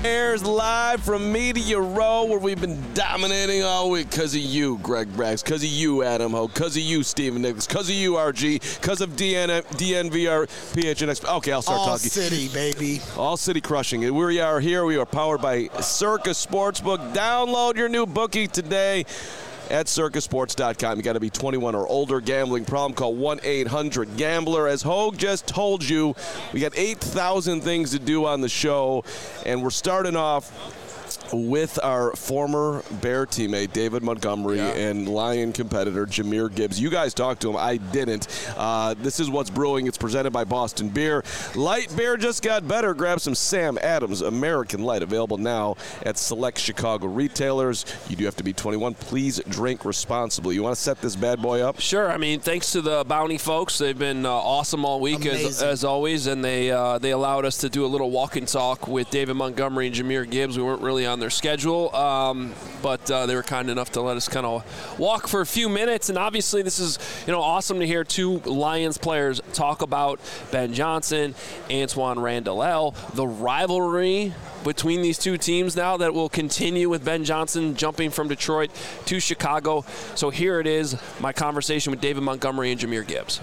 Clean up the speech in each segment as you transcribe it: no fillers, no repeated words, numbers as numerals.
airs live from Media Row, where we've been dominating all week because of you, Greg Braggs, because of you, Adam Ho, because of you, Stephen Nicholas, because of you, RG, because of DNVR, PHNX. Okay, I'll start talking. All City, baby. All City crushing it. We are here. We are powered by Circus Sportsbook. Download your new bookie today at circusports.com. You got to be 21 or older. Gambling problem, call 1-800-GAMBLER. As Hogue just told you, we got 8,000 things to do on the show, and we're starting off with our former Bear teammate, David Montgomery, and Lion competitor, Jahmyr Gibbs. You guys talked to him. I didn't. This is what's brewing. It's presented by Boston Beer. Light beer just got better. Grab some Sam Adams American Light, available now at select Chicago retailers. You do have to be 21. Please drink responsibly. You want to set this bad boy up? Sure. I mean, thanks to the Bounty folks. They've been awesome all week, as always, and they allowed us to do a little walk and talk with David Montgomery and Jahmyr Gibbs. We weren't really on their schedule, but they were kind enough to let us kind of walk for a few minutes. And obviously, this is awesome to hear two Lions players talk about Ben Johnson, Antoine Randall, the rivalry between these two teams now that will continue with Ben Johnson jumping from Detroit to Chicago. So here it is, my conversation with David Montgomery and Jahmyr Gibbs.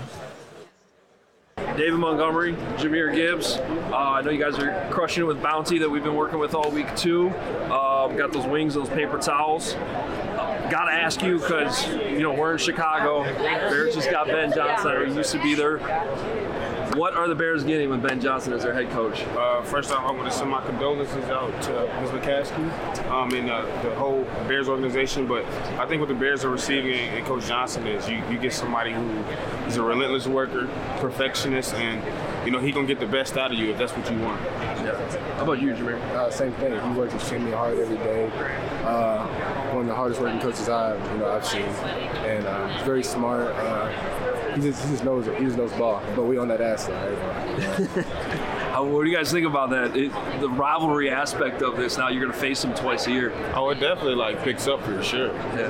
David Montgomery, Jahmyr Gibbs. I know you guys are crushing it with Bounty that we've been working with all week too. Got those wings, those paper towels. Got to ask you because, we're in Chicago. Bears just got Ben Johnson, or used to be there. What are the Bears getting with Ben Johnson as their head coach? First off, I want to send my condolences out to Ms. McCaskey and the whole Bears organization. But I think what the Bears are receiving in Coach Johnson is you get somebody who is a relentless worker, perfectionist, and he going to get the best out of you if that's what you want. Yeah. How about you, Jahmyr? Same thing. He works extremely hard every day. One of the hardest working coaches I've seen, and he's very smart. He just knows it. He just knows ball. But we on that ass side. What do you guys think about that? The rivalry aspect of this. Now you're going to face him twice a year. Oh, it definitely picks up for sure.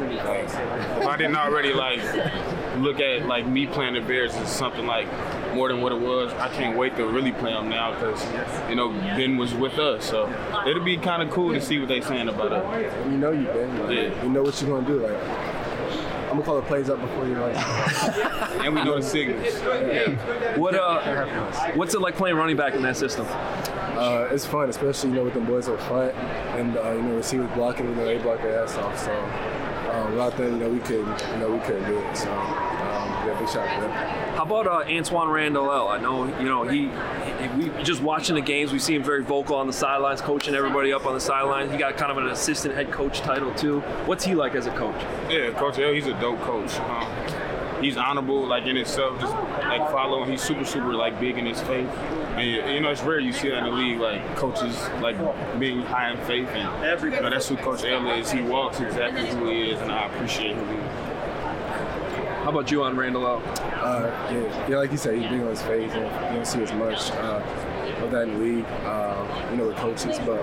Yeah. If I didn't already look at me playing the Bears as something more than what it was, I can't wait to really play them now because Ben was with us. So it'll be kind of cool to see what they're saying about us. You know you Ben. You know what you're going to do. I'm going to call the plays up before you run. And we know the signals. Yeah. What's it like playing running back in that system? It's fun, especially, with the boys up front and, receivers blocking, they block their ass off. So without them, we couldn't do it. So, big shot for them. How about Antoine Randall? I know, we just watching the games, we see him very vocal on the sidelines, coaching everybody up on the sidelines. He got kind of an assistant head coach title, too. What's he like as a coach? Yeah, Coach L, he's a dope coach. He's honorable, in itself, just following. He's super, super, big in his faith. And, it's rare you see that in the league, coaches, being high in faith. And, that's who Coach L is. He walks exactly who he is, and I appreciate who he is. How about you on Randall? Yeah, like you said, he's big on his face, and you don't see as much of that in the league, with coaches, but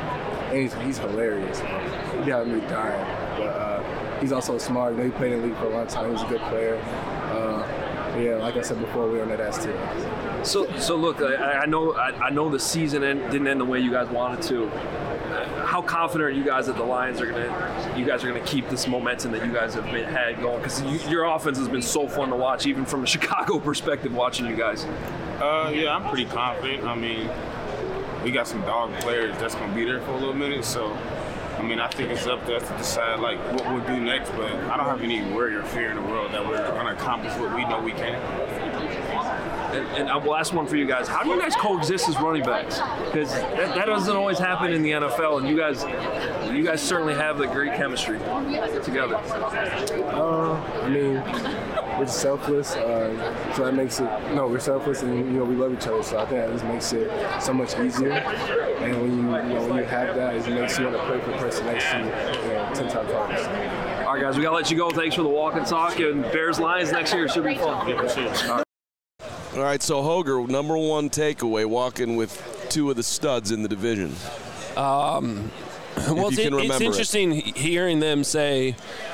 and he's hilarious. He got me dying, but he's also smart. He played in the league for a long time. He's a good player. Yeah, like I said before, we're on that ass too. So look, I know the season didn't end the way you guys wanted to. How confident are you guys that the Lions are gonna keep this momentum that you guys have had going? Because your offense has been so fun to watch, even from a Chicago perspective, watching you guys. Yeah, I'm pretty confident. I mean, we got some dog players that's gonna be there for a little minute, so. I think it's up to us to decide what we'll do next, but I don't have any worry or fear in the world that we're going to accomplish what we know we can. And last one for you guys. How do you guys coexist as running backs? Because that doesn't always happen in the NFL, and you guys certainly have the great chemistry together. We're selfless, so that makes it. No, we're selfless, and we love each other. So I think that just makes it so much easier. And when you have that, it makes you want to play for the person next to you 10 times harder. All right, guys, we gotta let you go. Thanks for the walk and talk. And Bears Lions next year should be fun. Yeah, All right, so Hoger, number one takeaway, walking with two of the studs in the division. Well, it's interesting hearing them say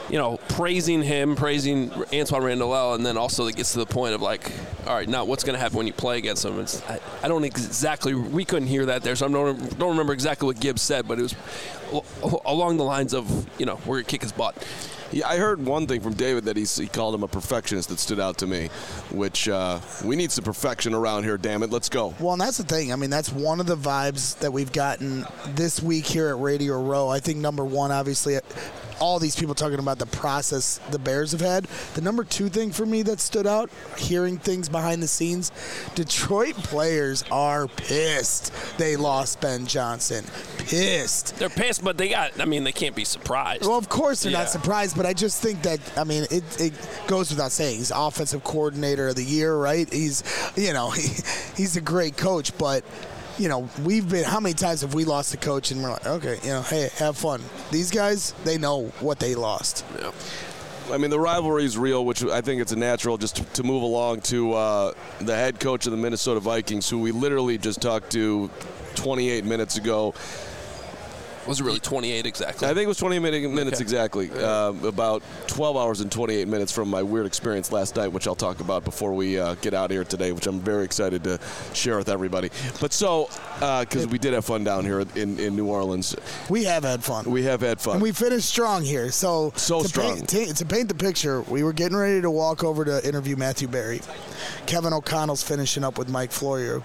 praising him, praising Antoine Randall, and then also it gets to the point of like, all right, now what's going to happen when you play against him? I don't exactly, we couldn't hear that there, so I don't remember exactly what Gibbs said, but it was along the lines of, we're going to kick his butt. Yeah, I heard one thing from David that he called him a perfectionist that stood out to me, which we need some perfection around here, damn it. Let's go. Well, and that's the thing. I mean, that's one of the vibes that we've gotten this week here at Radio Row. I think number one, obviously, all these people talking about the process the Bears have had. The number two thing for me that stood out, hearing things behind the scenes, Detroit players are pissed they lost Ben Johnson. Pissed. They're pissed, but they can't be surprised. Well, of course they're not surprised, but I just think that, it goes without saying. He's offensive coordinator of the year, right? He's, he's a great coach, but we've been, how many times have we lost a coach and we're like, okay, hey, have fun. These guys, they know what they lost. Yeah. I mean, the rivalry is real, which I think it's a natural just to move along to the head coach of the Minnesota Vikings, who we literally just talked to 28 minutes ago. Was it really 28 exactly? I think it was 28 minutes exactly. About 12 hours and 28 minutes from my weird experience last night, which I'll talk about before we get out of here today, which I'm very excited to share with everybody. But because we did have fun down here in New Orleans. We have had fun. We have had fun. And we finished strong here. So strong. To paint the picture, we were getting ready to walk over to interview Matthew Berry. Kevin O'Connell's finishing up with Mike Florio.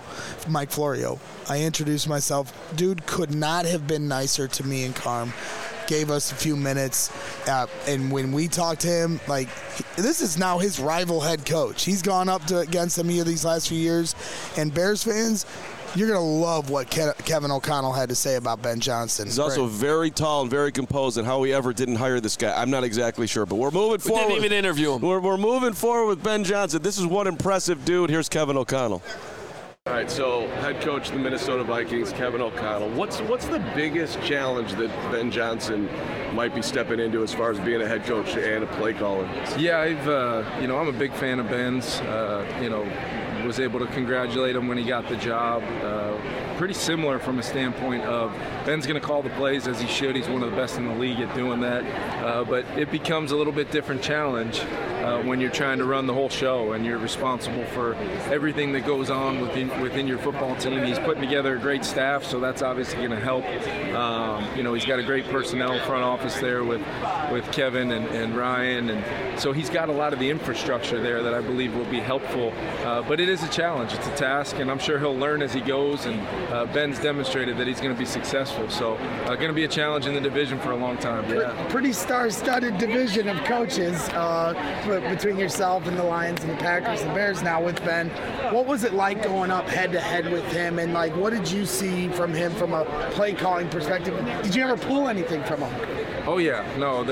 I introduced myself. Dude could not have been nicer to me and Carm. Gave us a few minutes. And when we talked to him, this is now his rival head coach. He's gone up against him here these last few years. And Bears fans, you're going to love what Kevin O'Connell had to say about Ben Johnson. He's also very tall and very composed, and how he ever didn't hire this guy, I'm not exactly sure. But we're moving forward. We didn't even interview him. We're moving forward with Ben Johnson. This is one impressive dude. Here's Kevin O'Connell. All right, so head coach of the Minnesota Vikings, Kevin O'Connell. What's the biggest challenge that Ben Johnson might be stepping into as far as being a head coach and a play caller? Yeah, I'm a big fan of Ben's. Was able to congratulate him when he got the job. Pretty similar from a standpoint of Ben's going to call the plays as he should. He's one of the best in the league at doing that. But it becomes a little bit different challenge when you're trying to run the whole show and you're responsible for everything that goes on within your football team. He's putting together a great staff, so that's obviously going to help. He's got a great personnel front office there with Kevin and Ryan, and so he's got a lot of the infrastructure there that I believe will be helpful. But it is a challenge. It's a task, and I'm sure he'll learn as he goes, and Ben's demonstrated that he's going to be successful. So going to be a challenge in the division for a long time. Yeah. Pretty star-studded division of coaches between yourself and the Lions and the Packers and the Bears now with Ben. What was it like going up head-to-head with him, and what did you see from him from a play-calling perspective? Did you ever pull anything from him? Oh yeah, no.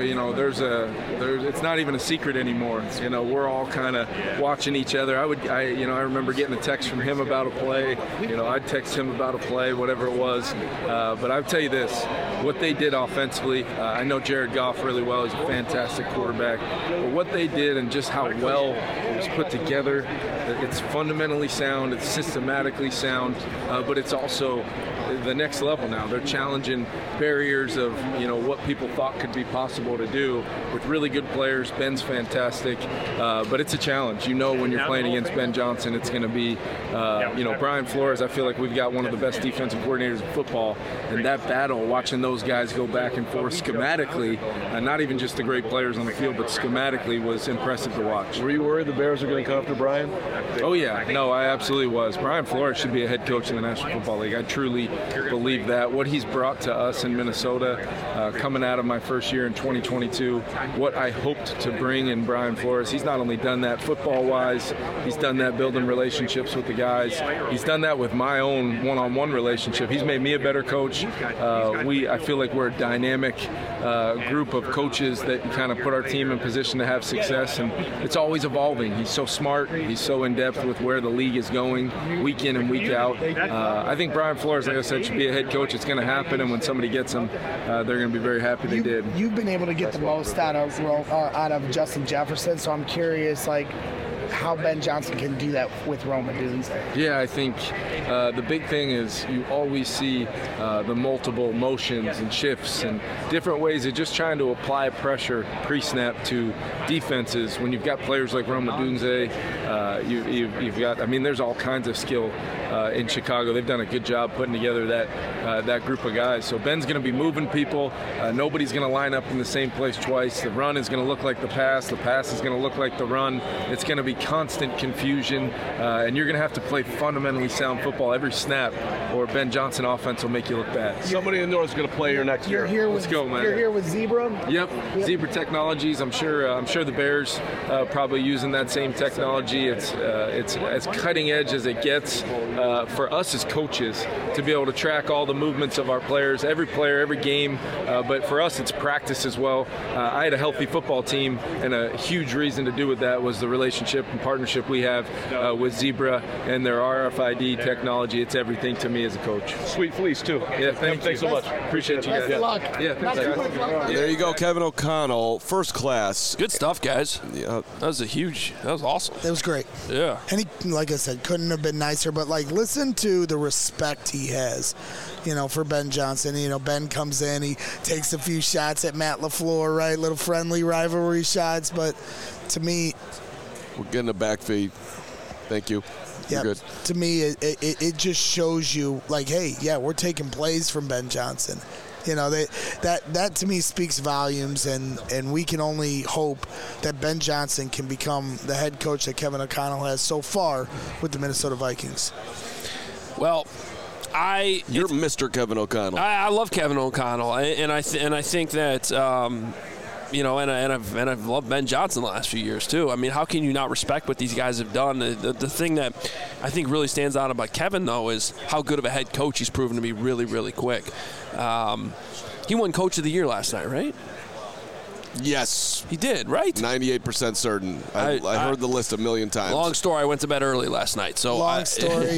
It's not even a secret anymore. We're all kind of watching each other. I remember getting a text from him about a play. I'd text him about a play, whatever it was. But I'll tell you this: what they did offensively. I know Jared Goff really well. He's a fantastic quarterback. But what they did and just how well it was put together, it's fundamentally sound. It's systematically sound. But it's also the next level now. They're challenging barriers of what people thought could be possible to do with really good players. Ben's fantastic, but it's a challenge. When you're playing against Ben Johnson, it's going to be Brian Flores. I feel like we've got one of the best defensive coordinators in football, and that battle, watching those guys go back and forth schematically, not even just the great players on the field, but schematically, was impressive to watch. Were you worried the Bears were going to come after Brian? Oh yeah, no, I absolutely was. Brian Flores should be a head coach in the National Football League. I truly believe that. What he's brought to us in Minnesota, coming out of my first year in 2022, what I hoped to bring in Brian Flores, he's not only done that football-wise, he's done that building relationships with the guys, he's done that with my own one-on-one relationship. He's made me a better coach. I feel like we're a dynamic group of coaches that kind of put our team in position to have success, and it's always evolving. He's so smart, he's so in-depth with where the league is going week in and week out. I think Brian Flores, like I said, should be a head coach. It's going to happen, and when somebody gets him, they're going to be very happy they did. You've been able to get the most out of Justin Jefferson, so I'm curious, how Ben Johnson can do that with Rome Odunze. Yeah, I think the big thing is you always see the multiple motions and shifts and different ways of just trying to apply pressure pre-snap to defenses. When you've got players like Rome Odunze, you've got, I mean, there's all kinds of skill in Chicago. They've done a good job putting together that group of guys. So Ben's going to be moving people. Nobody's going to line up in the same place twice. The run is going to look like the pass. The pass is going to look like the run. It's going to be constant confusion, and you're going to have to play fundamentally sound football every snap, or Ben Johnson offense will make you look bad. Somebody in the north is going to play here next year. Let's go, man. You're here with Zebra? Yep. Zebra Technologies. I'm sure the Bears probably using that same technology. It's as cutting edge as it gets for us as coaches to be able to track all the movements of our players, every player, every game. But for us, it's practice as well. I had a healthy football team, and a huge reason to do with that was the relationship and partnership we have with Zebra and their RFID technology. It's everything to me as a coach. Sweet fleece, too. Yeah, thanks so much. Appreciate you guys. Best of luck. Yeah, thanks, guys. There you go, Kevin O'Connell, first class. Good stuff, guys. Yeah. That was awesome. It was great. Yeah. And he, like I said, couldn't have been nicer, but like listen to the respect he has, for Ben Johnson. Ben comes in, he takes a few shots at Matt LaFleur, right? Little friendly rivalry shots, but to me, we're getting a back feed. Thank you. Yeah, good. To me, it just shows you, like, hey, yeah, we're taking plays from Ben Johnson. That to me speaks volumes, and we can only hope that Ben Johnson can become the head coach that Kevin O'Connell has so far with the Minnesota Vikings. Well, you're Mr. Kevin O'Connell. I love Kevin O'Connell, and I think that. And I've loved Ben Johnson the last few years too. I mean, how can you not respect what these guys have done? The thing that I think really stands out about Kevin, though, is how good of a head coach he's proven to be really, really quick. He won Coach of the Year last night, right? Yes. He did, right? 98% certain. I heard the list a million times. Long story, I went to bed early last night. So long story,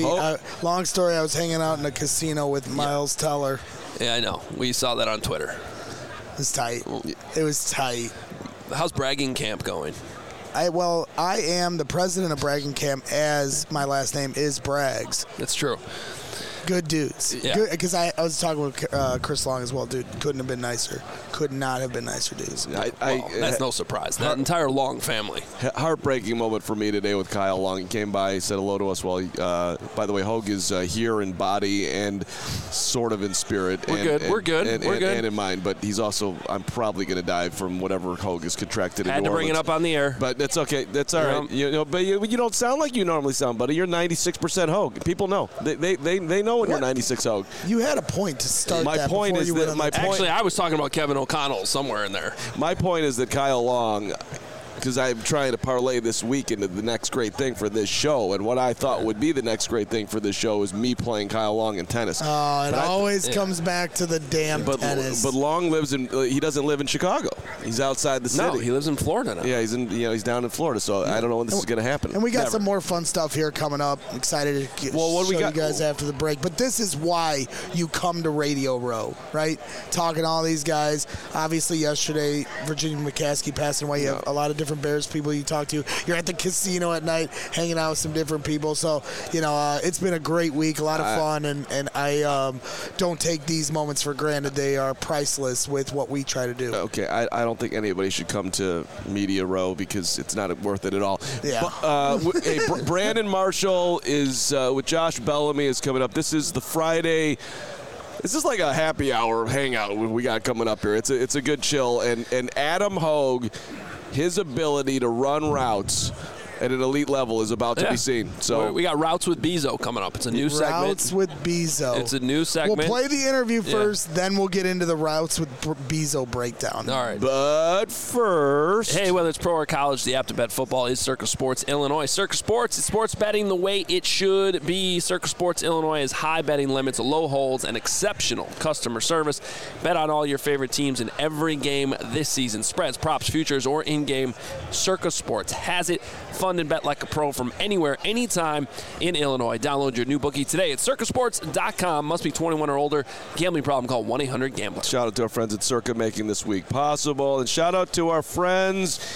I was hanging out in a casino with Miles Teller. Yeah, I know. We saw that on Twitter. It was tight. It was tight. How's Bragging Camp going? I am the president of Bragging Camp, as my last name is Braggs. That's true. Good dudes. Yeah. Because I was talking with Chris Long as well, dude. Couldn't have been nicer. Could not have been nicer dudes. That's no surprise. That entire Long family. Heartbreaking moment for me today with Kyle Long. He came by, he said hello to us. By the way, Hogue is here in body and sort of in spirit. We're good. And in mind. But he's also, I'm probably going to die from whatever Hogue is contracted in New Orleans. Had to bring it up on the air. But that's okay. That's all right. But you don't sound like you normally sound, buddy. You're 96% Hogue. People know. They know when you're 96 Hogue. You had a point to start my that point is that Actually, I was talking about Kevin O'Connell somewhere in there. My point is that Kyle Long, because I'm trying to parlay this week into the next great thing for this show, and what I thought would be the next great thing for this show is me playing Kyle Long in tennis. Oh, it always comes back to the damn tennis. But Long he doesn't live in Chicago. He's outside the city. No, he lives in Florida now. Yeah, he's down in Florida, so I don't know when this is going to happen. And we got some more fun stuff here coming up. I'm excited to show you guys after the break. But this is why you come to Radio Row, right? Talking to all these guys. Obviously, yesterday, Virginia McCaskey passing away. You have a lot of different Bears people you talk to. You're at the casino at night, hanging out with some different people. So, it's been a great week, a lot of fun, and I don't take these moments for granted. They are priceless with what we try to do. Okay, I don't think anybody should come to Media Row because it's not worth it at all. Yeah. Hey, Brandon Marshall is with Josh Bellamy is coming up. This is the Friday. This is like a happy hour hangout we got coming up here. It's a good chill. And Adam Hogue, his ability to run routes at an elite level is about to be seen. So we got Routes with Bezo coming up. It's a new segment. Routes with Bezo. It's a new segment. We'll play the interview first, then we'll get into the Routes with Bezo breakdown. All right. But first, hey, whether it's pro or college, the app to bet football is Circa Sports Illinois. Circa Sports is sports betting the way it should be. Circa Sports Illinois has high betting limits, low holds, and exceptional customer service. Bet on all your favorite teams in every game this season. Spreads, props, futures, or in-game. Circa Sports has it. Fund and bet like a pro from anywhere, anytime in Illinois. Download your new bookie today at circasports.com. Must be 21 or older. Gambling problem, call 1-800-GAMBLER. Shout out to our friends at Circa making this week possible. And shout out to our friends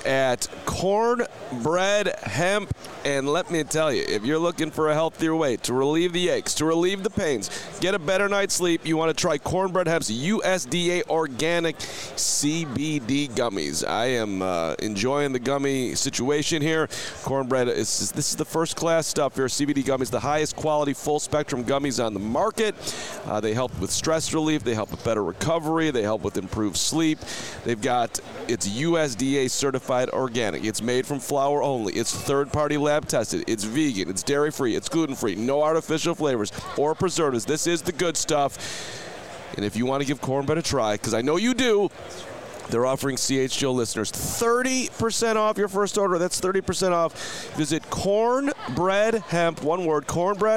at Cornbread Hemp. And let me tell you, if you're looking for a healthier way to relieve the aches, to relieve the pains, get a better night's sleep, you want to try Cornbread Hemp's USDA organic CBD gummies. I am enjoying the gummy situation here. Cornbread, this is the first class stuff here. CBD gummies, the highest quality full spectrum gummies on the market. They help with stress relief. They help with better recovery. They help with improved sleep. It's USDA certified organic. It's made from flour only. It's third-party lab tested. It's vegan. It's dairy-free. It's gluten-free. No artificial flavors or preservatives. This is the good stuff. And if you want to give Cornbread a try, because I know you do, they're offering CHGO listeners 30% off your first order. That's 30% off. Visit cornbreadhemp, one word,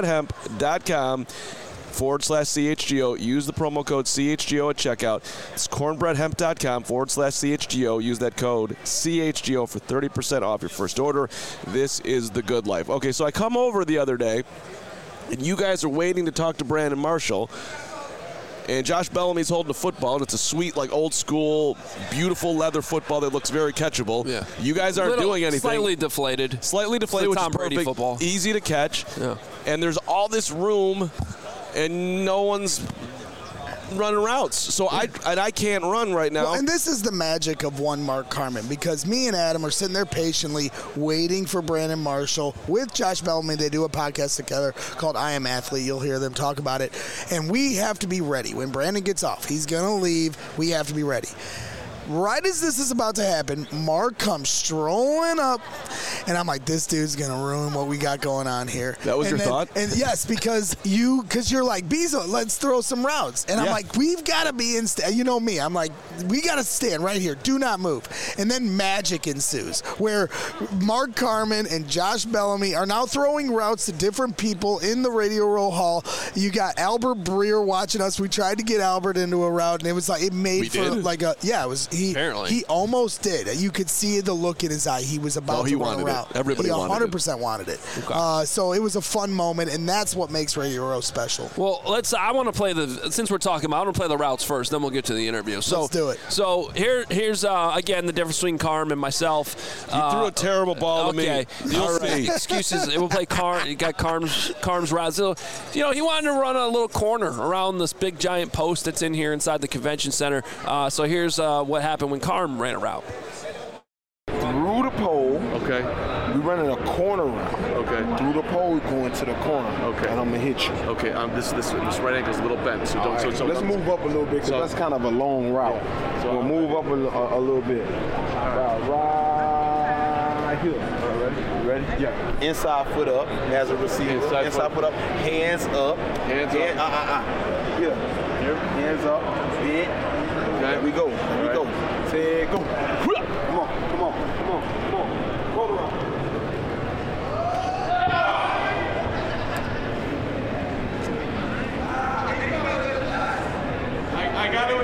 cornbreadhemp.com/CHGO. Use the promo code CHGO at checkout. It's cornbreadhemp.com/CHGO. Use that code CHGO for 30% off your first order. This is the good life. Okay, so I come over the other day, and you guys are waiting to talk to Brandon Marshall. And Josh Bellamy's holding a football, and it's a sweet, like, old-school, beautiful leather football that looks very catchable. Yeah. You guys aren't doing anything. Slightly deflated. Which is Tom Brady perfect. Football. Easy to catch. Yeah. And there's all this room, and no one's running routes. So I can't run right now. Well, and this is the magic of one Mark Carman, because me and Adam are sitting there patiently waiting for Brandon Marshall with Josh Bellamy. They do a podcast together called I Am Athlete. You'll hear them talk about it. And we have to be ready. When Brandon gets off, he's going to leave. We have to be ready. Right as this is about to happen, Mark comes strolling up, and I'm like, this dude's going to ruin what we got going on here. That was your thought? And yes, because you're like, Bezo, let's throw some routes. And I'm like, we've got to be in, you know me, I'm like, we got to stand right here. Do not move. And then magic ensues, where Mark Carman and Josh Bellamy are now throwing routes to different people in the Radio Row Hall. You got Albert Breer watching us. We tried to get Albert into a route, and it was like, it made like a, it was, he almost did. You could see the look in his eye. He was about to run a route. Everybody wanted it. 100% wanted it. Okay. So it was a fun moment, and that's what makes Radio Row special. Well, I want to play since we're talking about, I want to play the routes first, then we'll get to the interview. So, let's do it. So here's again, the difference between Carm and myself. You threw a terrible ball to me. Okay. Excuses. We'll play Carm. You got Carm's routes. You know, he wanted to run a little corner around this big giant post that's in here inside the convention center. So here's what happened when Carm ran a route. Through the pole. Okay. We're running a corner route. Okay. Through the pole, we're going to the corner. Okay. And I'm going to hit you. Okay. This right ankle's a little bent. So don't. Right. So let's move up a little bit, because that's kind of a long route. Yeah. So we'll move up a little bit. Right here. All right. You ready? Yeah. Inside foot up as a receiver. Inside foot up. Hands up. Hands up. Yeah. Hands up. Bend. Okay. There we go. There we go. Say go. Come on. Roll around. You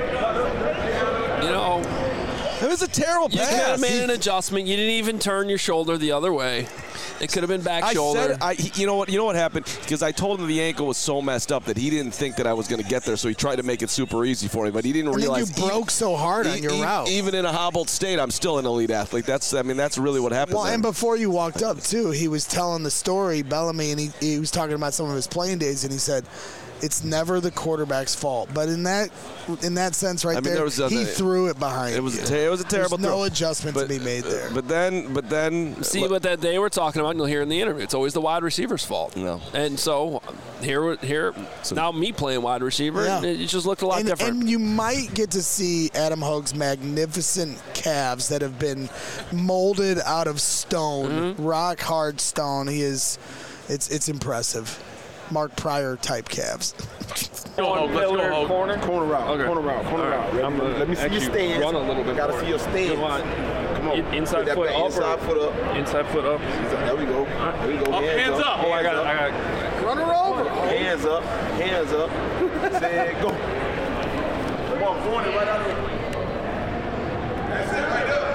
know, it was a terrible pass. You could have made an adjustment. You didn't even turn your shoulder the other way. It could have been back shoulder. You know what happened? Because I told him the ankle was so messed up that he didn't think that I was going to get there, so he tried to make it super easy for me, but he didn't realize. You broke so hard on your route. Even in a hobbled state, I'm still an elite athlete. That's really what happened. Well, and before you walked up too, he was telling the story, Bellamy, and he was talking about some of his playing days, and he said, it's never the quarterback's fault. But in that sense he threw it behind. It was a terrible throw. No adjustment to be made there. But then see what that they were talking about, and you'll hear in the interview. It's always the wide receiver's fault. No. And so here now me playing wide receiver, it just looked a lot different. And you might get to see Adam Hogue's magnificent calves that have been molded out of stone, rock hard stone. It's impressive. Mark Pryor type calves. Let's go. Corner route. Okay. Corner route. Let me see your stance. Run a little bit. Gotta see your stance. Come on. Inside foot up. Inside foot up. Inside foot up. There we go. Hands up. Oh, I got it. Run her over. Hands up. Say go. Come on, corner right out there. That's it right there.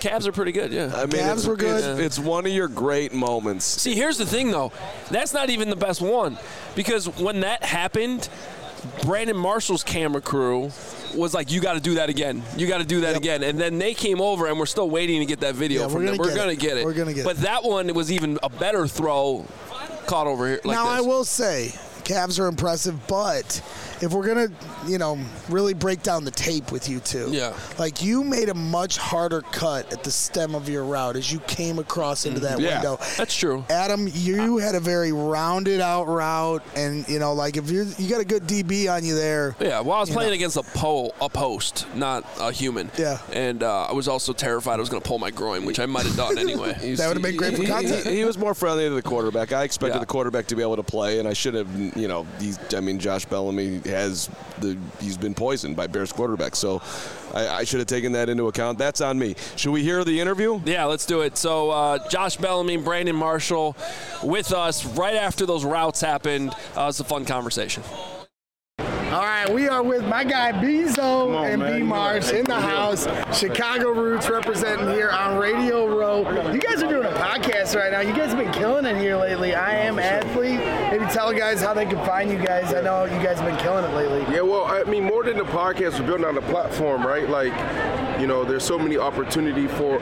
Cavs are pretty good, yeah. I mean, Cavs were good. It's one of your great moments. See, here's the thing, though. That's not even the best one. Because when that happened, Brandon Marshall's camera crew was like, you got to do that again. You got to do that again. And then they came over, and we're still waiting to get that video from them. We're going to get it. We're going to get it. But that one was even a better throw caught over here like now, this. I will say, Cavs are impressive, but if we're going to, really break down the tape with you two, like you made a much harder cut at the stem of your route as you came across into that window. That's true. Adam, you had a very rounded out route, and, like if you got a good DB on you there. Yeah, well, I was playing against a post, not a human. Yeah. And I was also terrified I was going to pull my groin, which I might have done anyway. That would have been great for content. He was more friendly to the quarterback. I expected the quarterback to be able to play, and I should have, Josh Bellamy he's been poisoned by Bears quarterback, so I should have taken that into account. That's on me. Should we hear the interview? Yeah, let's do it. So Josh Bellamy, Brandon Marshall with us right after those routes happened. It's a fun conversation. All right, we are with my guy Bezo and B-Mars in the house. Chicago Roots representing here on Radio Row. You guys are doing a podcast right now. You guys have been killing it here lately. I Am Athlete. Maybe tell guys how they can find you guys. I know you guys have been killing it lately. Yeah, well, I mean, more than the podcast, we're building on the platform, right? Like, there's so many opportunities for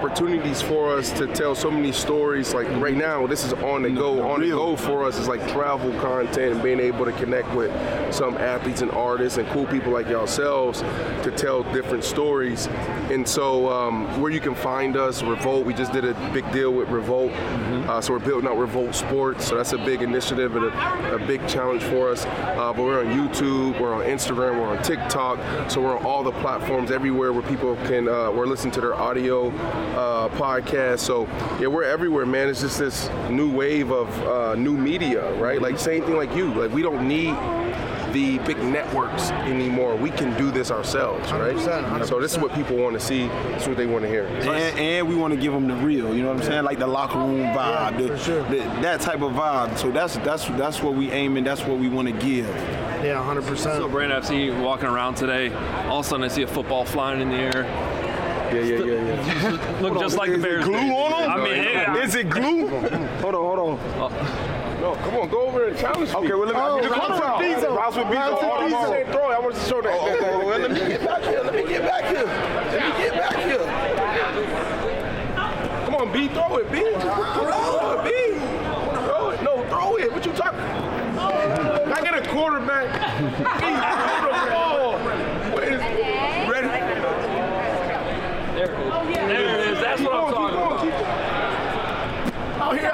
us to tell so many stories. Like right now, this is on the go. On the go for us is like travel content and being able to connect with some athletes and artists and cool people like yourselves to tell different stories. And so where you can find us, Revolt, we just did a big deal with Revolt. So we're building out Revolt Sports. So that's a big initiative and a big challenge for us. But we're on YouTube, we're on Instagram, we're on TikTok. So we're on all the platforms everywhere where people can, we're listening to their audio podcast. So yeah, we're everywhere, man. It's just this new wave of new media, right? Like same thing like you. Like we don't need the big networks anymore. We can do this ourselves, right? 100%. So this is what people want to see. This is what they want to hear. And we want to give them the real, you know what I'm saying? Like the locker room vibe, that type of vibe. So that's what we aim and that's what we want to give. Yeah, 100%. So Brandon, I've seen you walking around today. All of a sudden I see a football flying in the air. Yeah. Look just like the Bears. Glue on them? I mean, is it glue? Hold on. No, come on, go over and challenge me. Okay, well, let me Rouse with Bezo. Throw it. I want to show that. Let me get back here. Come on, B, throw it, B. Throw it, B. Throw it. No, throw it. What you talking? I get a quarterback. B, throw the ball. Ready? There it is. That's what I'm talking about. Out here.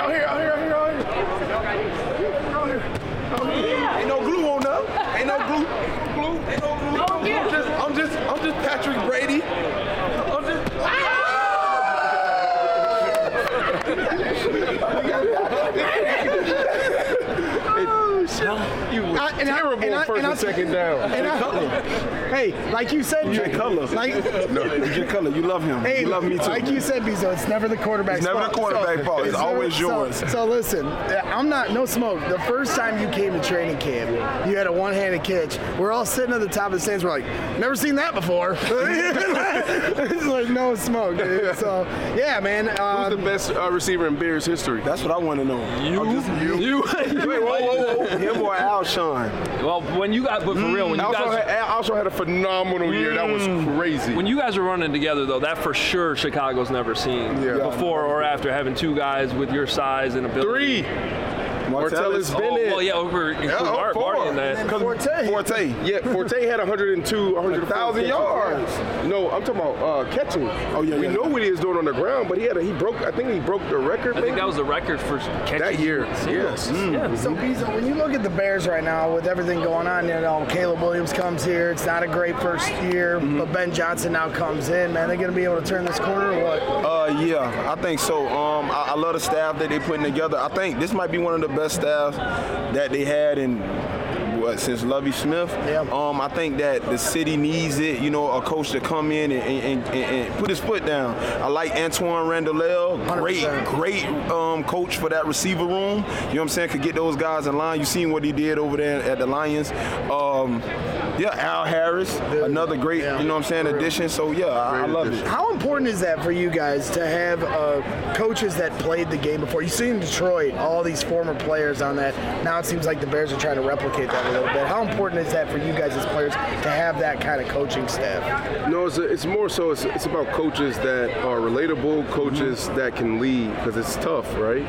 Ain't no glue on them. Ain't no glue. I'm just Patrick Brady. Terrible first and second down. Hey, like you said, Jay Cutler. Jay Cutler, you love him. Hey, you love me too. Like you said, Bezo, it's never the quarterback's fault. It's never the quarterback's fault. It's always yours. So listen, I'm not, no smoke. The first time you came to training camp, you had a one-handed catch. We're all sitting at the top of the stands. We're like, never seen that before. It's like no smoke, dude. So, yeah, man. Who's the best receiver in Bears history? That's what I want to know. You. Wait, whoa. Him or Alshon? Well, when you got, but for real, when you guys Alshon had a phenomenal year. That was crazy. When you guys were running together, though, that for sure Chicago's never seen before or after, having two guys with your size and ability. 3. Martellus Bennett. Well, yeah, over Marty in that. Forte. Yeah, Forte had 1,000 yards. No, I'm talking about catching. We know what he is doing on the ground, but I think he broke the record. I think that was the record for catching that year. Yes. Yeah. So, Bezo, when you look at the Bears right now with everything going on, Caleb Williams comes here. It's not a great first year, but Ben Johnson now comes in. Man, they're going to be able to turn this corner or what? Yeah, I think so. I love the staff that they're putting together. I think this might be one of the best staffs that they had since Lovie Smith. I think that the city needs it, a coach to come in and put his foot down. I like Antoine Randall, great coach for that receiver room. You know what I'm saying? Could get those guys in line. You seen what he did over there at the Lions. Yeah, Al Harris, another great, you know what I'm saying, addition. So, yeah, I love it. How important is that for you guys to have coaches that played the game before? You see in Detroit, all these former players on that. Now it seems like the Bears are trying to replicate that a little bit. How important is that for you guys as players to have that kind of coaching staff? No, it's more so it's about coaches that are relatable, coaches that can lead, because it's tough, right?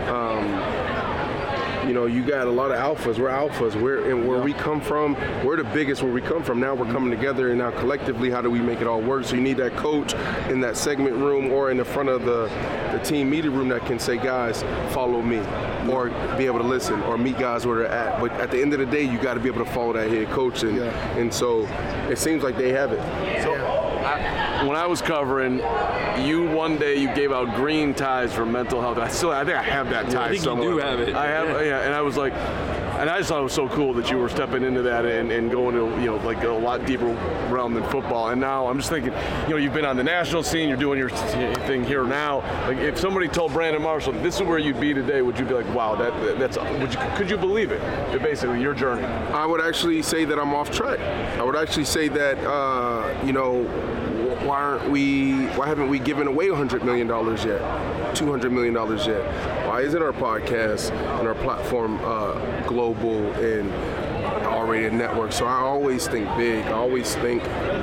You know, you got a lot of alphas. We're alphas. Where we come from, we're the biggest where we come from. Now we're coming together, and now collectively, how do we make it all work? So you need that coach in that segment room or in the front of the team media room that can say, guys, follow me, or be able to listen, or meet guys where they're at. But at the end of the day, you got to be able to follow that head coach, and so it seems like they have it. So when I was covering, one day you gave out green ties for mental health. I think I have that tie somewhere. You do have it. I have, and I was like, and I just thought it was so cool that you were stepping into that and going to, like a lot deeper realm than football. And now I'm just thinking, you've been on the national scene, you're doing your thing here now. Like, if somebody told Brandon Marshall, this is where you'd be today, would you be like, wow, could you believe it? Basically, your journey. I would actually say that I'm off track. I would actually say that, why haven't we given away $100 million yet, $200 million yet? Why isn't our podcast and our platform global and already a network? So I always think big. I always think,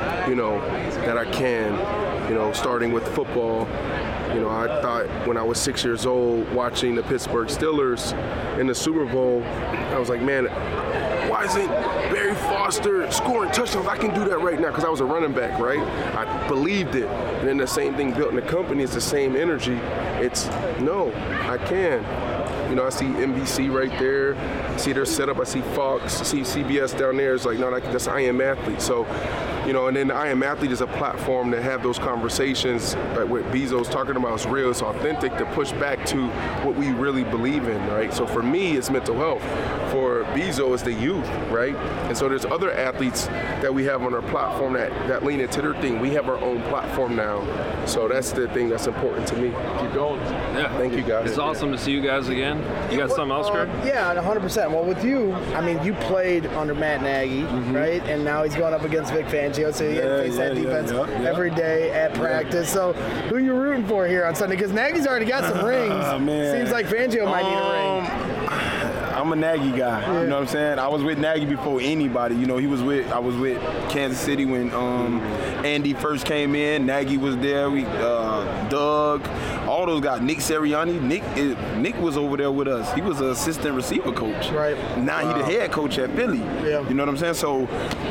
that I can, starting with football. I thought when I was 6 years old watching the Pittsburgh Steelers in the Super Bowl, I was like, man, why isn't Barry Foster scoring touchdowns? I can do that right now, because I was a running back, right? I believed it. And then the same thing built in the company. It's the same energy. It's, no, I can. I see NBC right there. I see their setup. I see Fox. I see CBS down there. It's like, no, that's I Am Athlete. So, and then the I Am Athlete is a platform to have those conversations like what Bezo's talking about. Is real, it's authentic, to push back to what we really believe in, right? So for me, it's mental health. For Bezo, it's the youth, right? And so there's other athletes that we have on our platform that lean into their thing. We have our own platform now. So that's the thing that's important to me. Keep going. Yeah. Thank you, guys. It's awesome to see you guys again. You got something else, Greg? Yeah, 100%. Well, with you, you played under Matt Nagy, right? And now he's going up against Vic Fangio, so you face that defense every day at practice. So who are you rooting for here on Sunday? Because Nagy's already got some rings. Seems like Fangio might need a ring. I'm a Nagy guy. You know what I'm saying? I was with Nagy before anybody. I was with Kansas City when Andy first came in. Nagy was there. Doug, all those guys. Nick Sirianni. Nick was over there with us. He was an assistant receiver coach. Right. Now he the head coach at Philly. Yeah. You know what I'm saying? So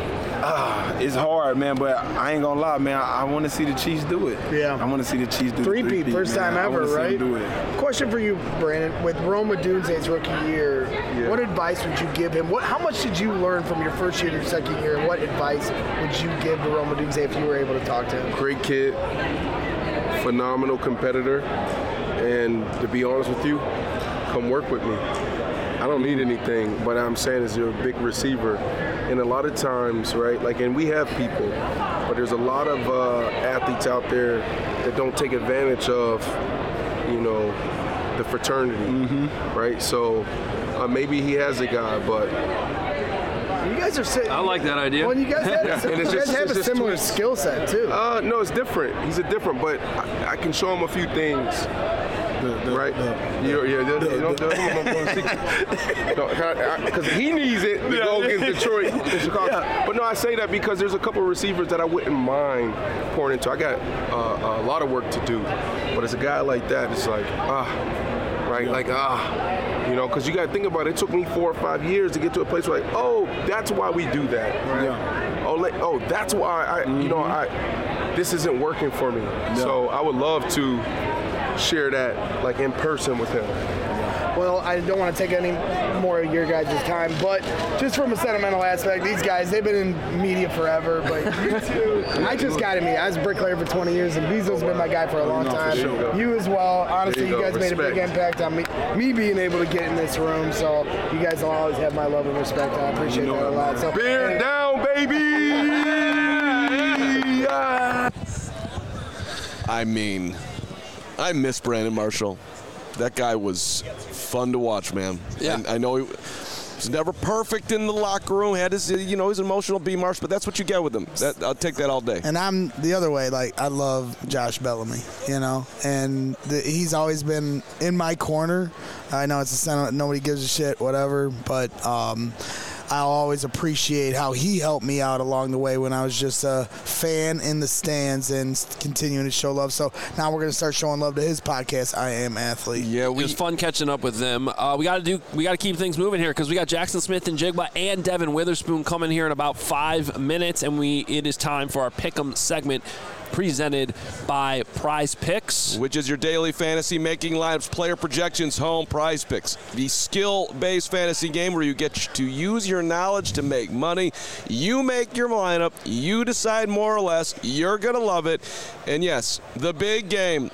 it's hard, man, but I ain't gonna lie, man. I want to see the Chiefs do it. Yeah. I want to see the Chiefs do it. Three-peat, first time ever, right? Do it. Question for you, Brandon. With Rome Odunze's rookie year, what advice would you give him? How much did you learn from your first year to your second year? And what advice would you give to Rome Odunze if you were able to talk to him? Great kid, phenomenal competitor, and to be honest with you, come work with me. I don't need anything, but I'm saying is you're a big receiver. And a lot of times, right, and we have people, but there's a lot of athletes out there that don't take advantage of, the fraternity, right? So maybe he has a guy, but you guys are sitting. I like that idea. Well, you guys have a similar skill set too. No, it's different. He's a different, but I can show him a few things. Right? Because he needs it to go against Detroit and Chicago. Yeah. But no, I say that because there's a couple of receivers that I wouldn't mind pouring into. I got a lot of work to do, but as a guy like that, it's like, because you got to think about it. It took me 4 or 5 years to get to a place where, that's why we do that. Right? Yeah. That's why this isn't working for me. No. So I would love to share that in person with him. Well, I don't want to take any more of your guys' time, but just from a sentimental aspect, these guys, they've been in media forever, but you two, I just got to meet. I was a bricklayer for 20 years, and Bezo's been my guy for a long time. Sure. You as well. Honestly, you guys made a big impact on me being able to get in this room, so you guys will always have my love and respect. I appreciate that a lot. So, beer down, baby! I miss Brandon Marshall. That guy was fun to watch, man. Yeah. And I know He's never perfect in the locker room. Had his, his emotional B marks, but that's what you get with him. I'll take that all day. And I'm the other way. Like, I love Josh Bellamy, and he's always been in my corner. I know it's a sentiment, nobody gives a shit, whatever, but I'll always appreciate how he helped me out along the way when I was just a fan in the stands and continuing to show love. So now we're going to start showing love to his podcast, I Am Athlete. Yeah, it was fun catching up with them. We got to keep things moving here because we got Jackson Smith-Njigba and Devin Witherspoon coming here in about 5 minutes, and it is time for our Pick'em segment, presented by Prize Picks, which is your daily fantasy making lineups, player projections, home. Prize Picks, the skill-based fantasy game where you get to use your knowledge to make money. You make your lineup, you decide more or less. You're gonna love it. And yes, the big game.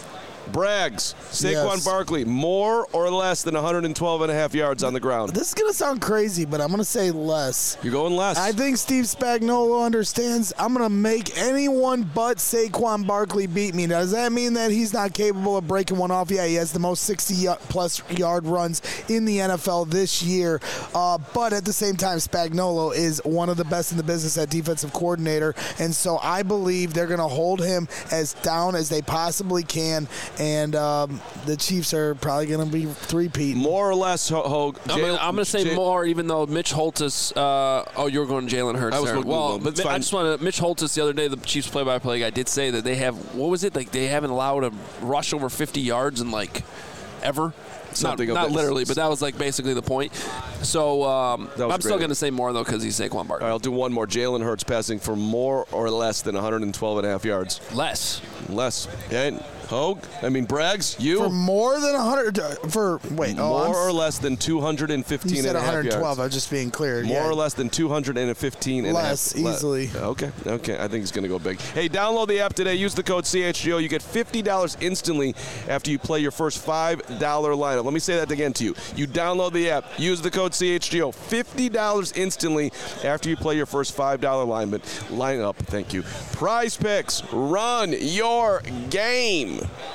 Braggs, Saquon Barkley, more or less than 112.5 yards on the ground? This is going to sound crazy, but I'm going to say less. You're going less. I think Steve Spagnuolo understands I'm going to make anyone but Saquon Barkley beat me. Does that mean that he's not capable of breaking one off? Yeah, he has the most 60-plus yard runs in the NFL this year. But at the same time, Spagnuolo is one of the best in the business at defensive coordinator. And so I believe they're going to hold him as down as they possibly can. And the Chiefs are probably going to be three-peat. More or less, Hogue. I'm going to say more, even though Mitch Holthus. You're going Jalen Hurts. I was there. Well, but I just want to. Mitch Holthus the other day, the Chiefs play-by-play guy, did say that they have. What was it? Like they haven't allowed a rush over 50 yards in ever. Not literally, but that was basically the point. So I'm still going to say more, though, because he's Saquon Barkley. All right, I'll do one more. Jalen Hurts passing for more or less than 112.5 yards. Less. And Hogue? Braggs, you? For more than 100, more or less than 215 you said and a half 112, yards. I was just being clear. More or less than 215 and less, a half. easily. Okay, I think he's going to go big. Hey, download the app today. Use the code CHGO. You get $50 instantly after you play your first $5 lineup. Let me say that again to you. You download the app. Use the code CHGO. $50 instantly after you play your first $5 lineup. Thank you. Prize Picks. Run your game.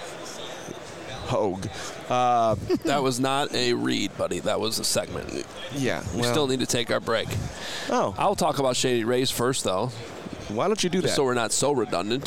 Hogue. That was not a read, buddy. That was a segment. Yeah. We still need to take our break. Oh. I'll talk about Shady Rays first, though. Why don't you do that? So we're not so redundant.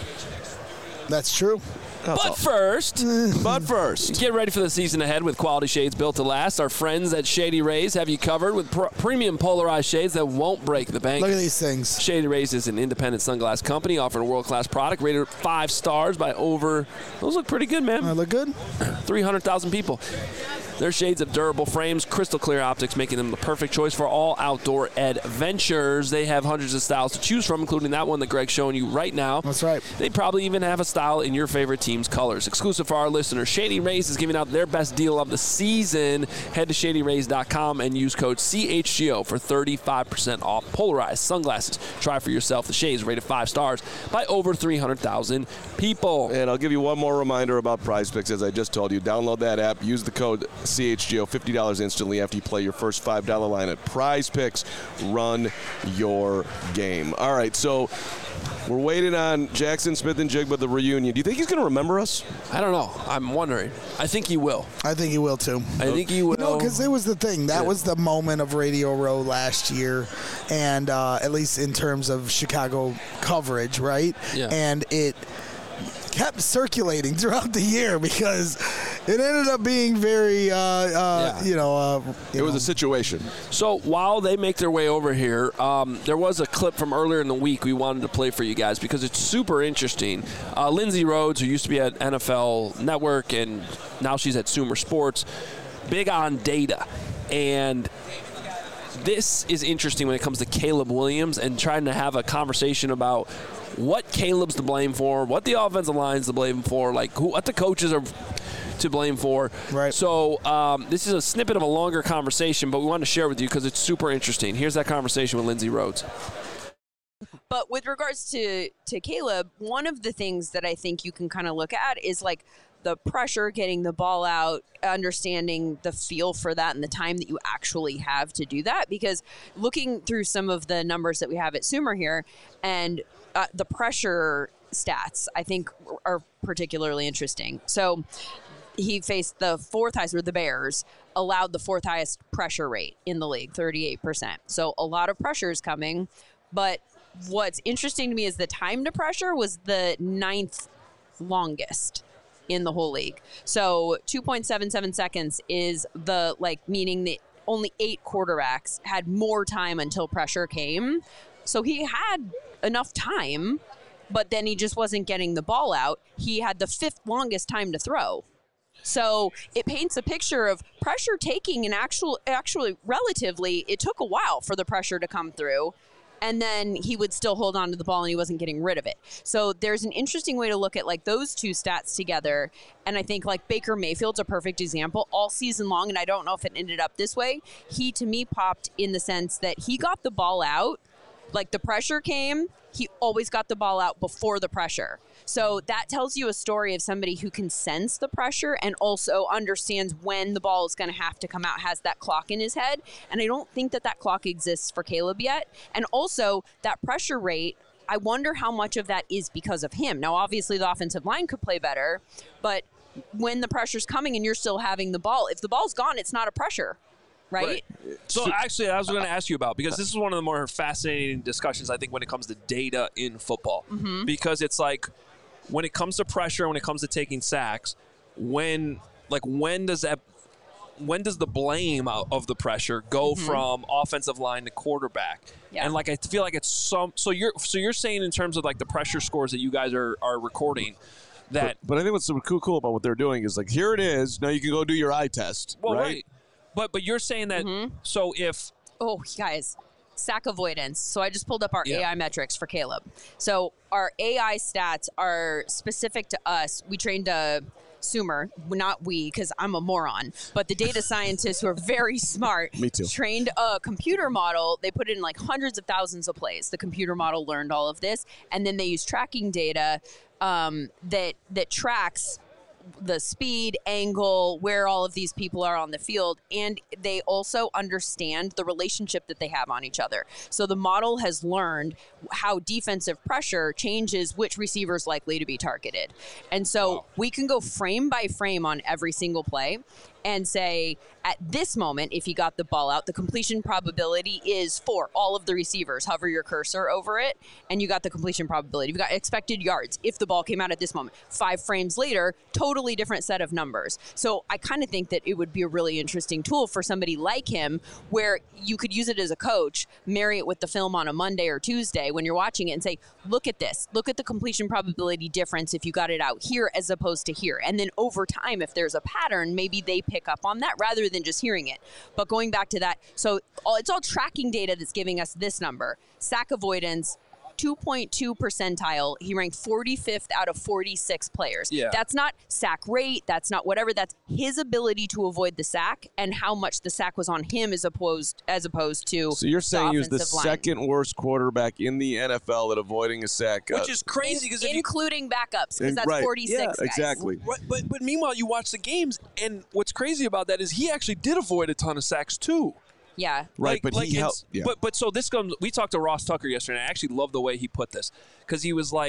That's true. But first, get ready for the season ahead with quality shades built to last. Our friends at Shady Rays have you covered with premium polarized shades that won't break the bank. Look at these things. Shady Rays is an independent sunglass company offering a world-class product rated 5 stars by over, those look pretty good, man. They look good. 300,000 people. Their shades have durable frames, crystal clear optics, making them the perfect choice for all outdoor adventures. They have hundreds of styles to choose from, including that one that Greg's showing you right now. That's right. They probably even have a style in your favorite team's colors. Exclusive for our listeners, Shady Rays is giving out their best deal of the season. Head to shadyrays.com and use code CHGO for 35% off polarized sunglasses. Try for yourself the shades rated 5 stars by over 300,000 people. And I'll give you one more reminder about Prize Picks, as I just told you. Download that app. Use the code CHGO, $50 instantly after you play your first $5 lineup. Prize Picks, run your game. All right, so we're waiting on Jackson Smith-Njigba, the reunion. Do you think he's going to remember us? I don't know. I'm wondering. I think he will. I think he will, too. I think he will. No, because it was the thing. That was the moment of Radio Row last year, and at least in terms of Chicago coverage, right? Yeah. And it kept circulating throughout the year because it ended up being very, it was a situation. So while they make their way over here, there was a clip from earlier in the week we wanted to play for you guys because it's super interesting. Lindsay Rhodes, who used to be at NFL Network and now she's at Sumer Sports, big on data. And this is interesting when it comes to Caleb Williams and trying to have a conversation about what Caleb's to blame for, what the offensive line's to blame for, what the coaches are to blame for. Right. So this is a snippet of a longer conversation, but we wanted to share with you because it's super interesting. Here's that conversation with Lindsay Rhodes. But with regards to Caleb, one of the things that I think you can kind of look at is the pressure, getting the ball out, understanding the feel for that and the time that you actually have to do that. Because looking through some of the numbers that we have at Sumer here and the pressure stats, I think, are particularly interesting. So he faced the fourth highest, or the Bears allowed the fourth highest pressure rate in the league, 38%. So a lot of pressure is coming. But what's interesting to me is the time to pressure was the 9th longest in the whole league. So 2.77 seconds is the, meaning that only 8 quarterbacks had more time until pressure came. So he had enough time, but then he just wasn't getting the ball out. He had the 5th longest time to throw. So it paints a picture of pressure taking, and actually relatively, it took a while for the pressure to come through. And then he would still hold on to the ball and he wasn't getting rid of it. So there's an interesting way to look at those two stats together. And I think Baker Mayfield's a perfect example all season long. And I don't know if it ended up this way. He, to me, popped in the sense that he got the ball out. The pressure came, he always got the ball out before the pressure. So that tells you a story of somebody who can sense the pressure and also understands when the ball is going to have to come out, has that clock in his head. And I don't think that clock exists for Caleb yet. And also that pressure rate, I wonder how much of that is because of him. Now, obviously the offensive line could play better, but when the pressure's coming and you're still having the ball, if the ball's gone, it's not a pressure. Right? So actually, I was going to ask you about, because this is one of the more fascinating discussions, I think, when it comes to data in football. Mm-hmm. Because it's when it comes to pressure, when it comes to taking sacks, when does the blame of the pressure go from offensive line to quarterback? Yeah. And I feel like it's so you're saying in terms of the pressure scores that you guys are recording. But I think what's so cool about what they're doing is here it is. Now you can go do your eye test. Well, right. But you're saying that, so if... Oh, guys, sack avoidance. So I just pulled up our AI metrics for Caleb. So our AI stats are specific to us. We trained a Sumer, not we, because I'm a moron, but the data scientists who are very smart Me too. trained a computer model. They put it in hundreds of thousands of plays. The computer model learned all of this, and then they use tracking data that tracks the speed, angle, where all of these people are on the field, and they also understand the relationship that they have on each other. So the model has learned how defensive pressure changes which receiver is likely to be targeted. And so we can go frame by frame on every single play and say, at this moment, if you got the ball out, the completion probability is for all of the receivers. Hover your cursor over it, and you got the completion probability. You've got expected yards if the ball came out at this moment. 5 frames later, totally different set of numbers. So I kind of think that it would be a really interesting tool for somebody like him, where you could use it as a coach, marry it with the film on a Monday or Tuesday when you're watching it and say, look at this. Look at the completion probability difference if you got it out here as opposed to here. And then over time, if there's a pattern, maybe they pick up on that rather than just hearing it. But going back to that, so it's all tracking data that's giving us this number. Sack avoidance, 2.2 percentile. He ranked 45th out of 46 players. Yeah. That's not sack rate. That's not whatever. That's his ability to avoid the sack and how much the sack was on him as opposed to. So you're saying he was the line. second worst quarterback in the NFL at avoiding a sack, which is crazy, because including backups, because that's right. 46 yeah, guys. Exactly. But meanwhile, you watch the games, and what's crazy about that is he actually did avoid a ton of sacks too. Yeah. Right, but he helped. Yeah. But so this comes. We talked to Ross Tucker yesterday, and I actually love the way he put this, because he was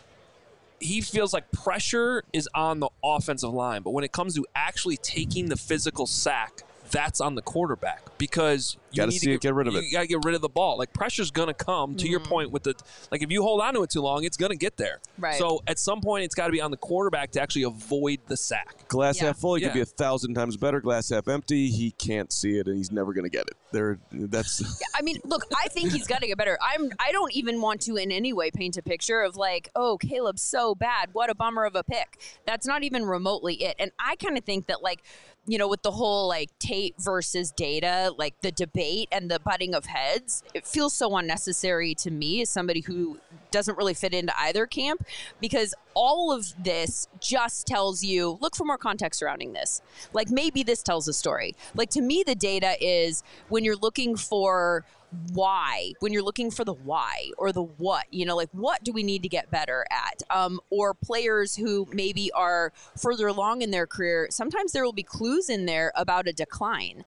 he feels like pressure is on the offensive line, but when it comes to actually taking the physical sack, that's on the quarterback, because you need to get rid of it. You got to get rid of the ball. Pressure's going to come, to your point with the, if you hold on to it too long, it's going to get there. Right. So at some point, it's got to be on the quarterback to actually avoid the sack. Glass half full, he could be 1,000 times better. Glass half empty, he can't see it, and he's never going to get it. That's. I mean, look, I think he's got to get better. I don't even want to in any way paint a picture of oh, Caleb's so bad. What a bummer of a pick. That's not even remotely it. And I kind of think that with the whole tape versus data, the debate and the butting of heads, it feels so unnecessary to me as somebody who doesn't really fit into either camp, because all of this just tells you, look for more context surrounding this. Maybe this tells a story. To me, the data is when you're looking for why, when you're looking for the why or the what, what do we need to get better at? Or players who maybe are further along in their career, sometimes there will be clues in there about a decline.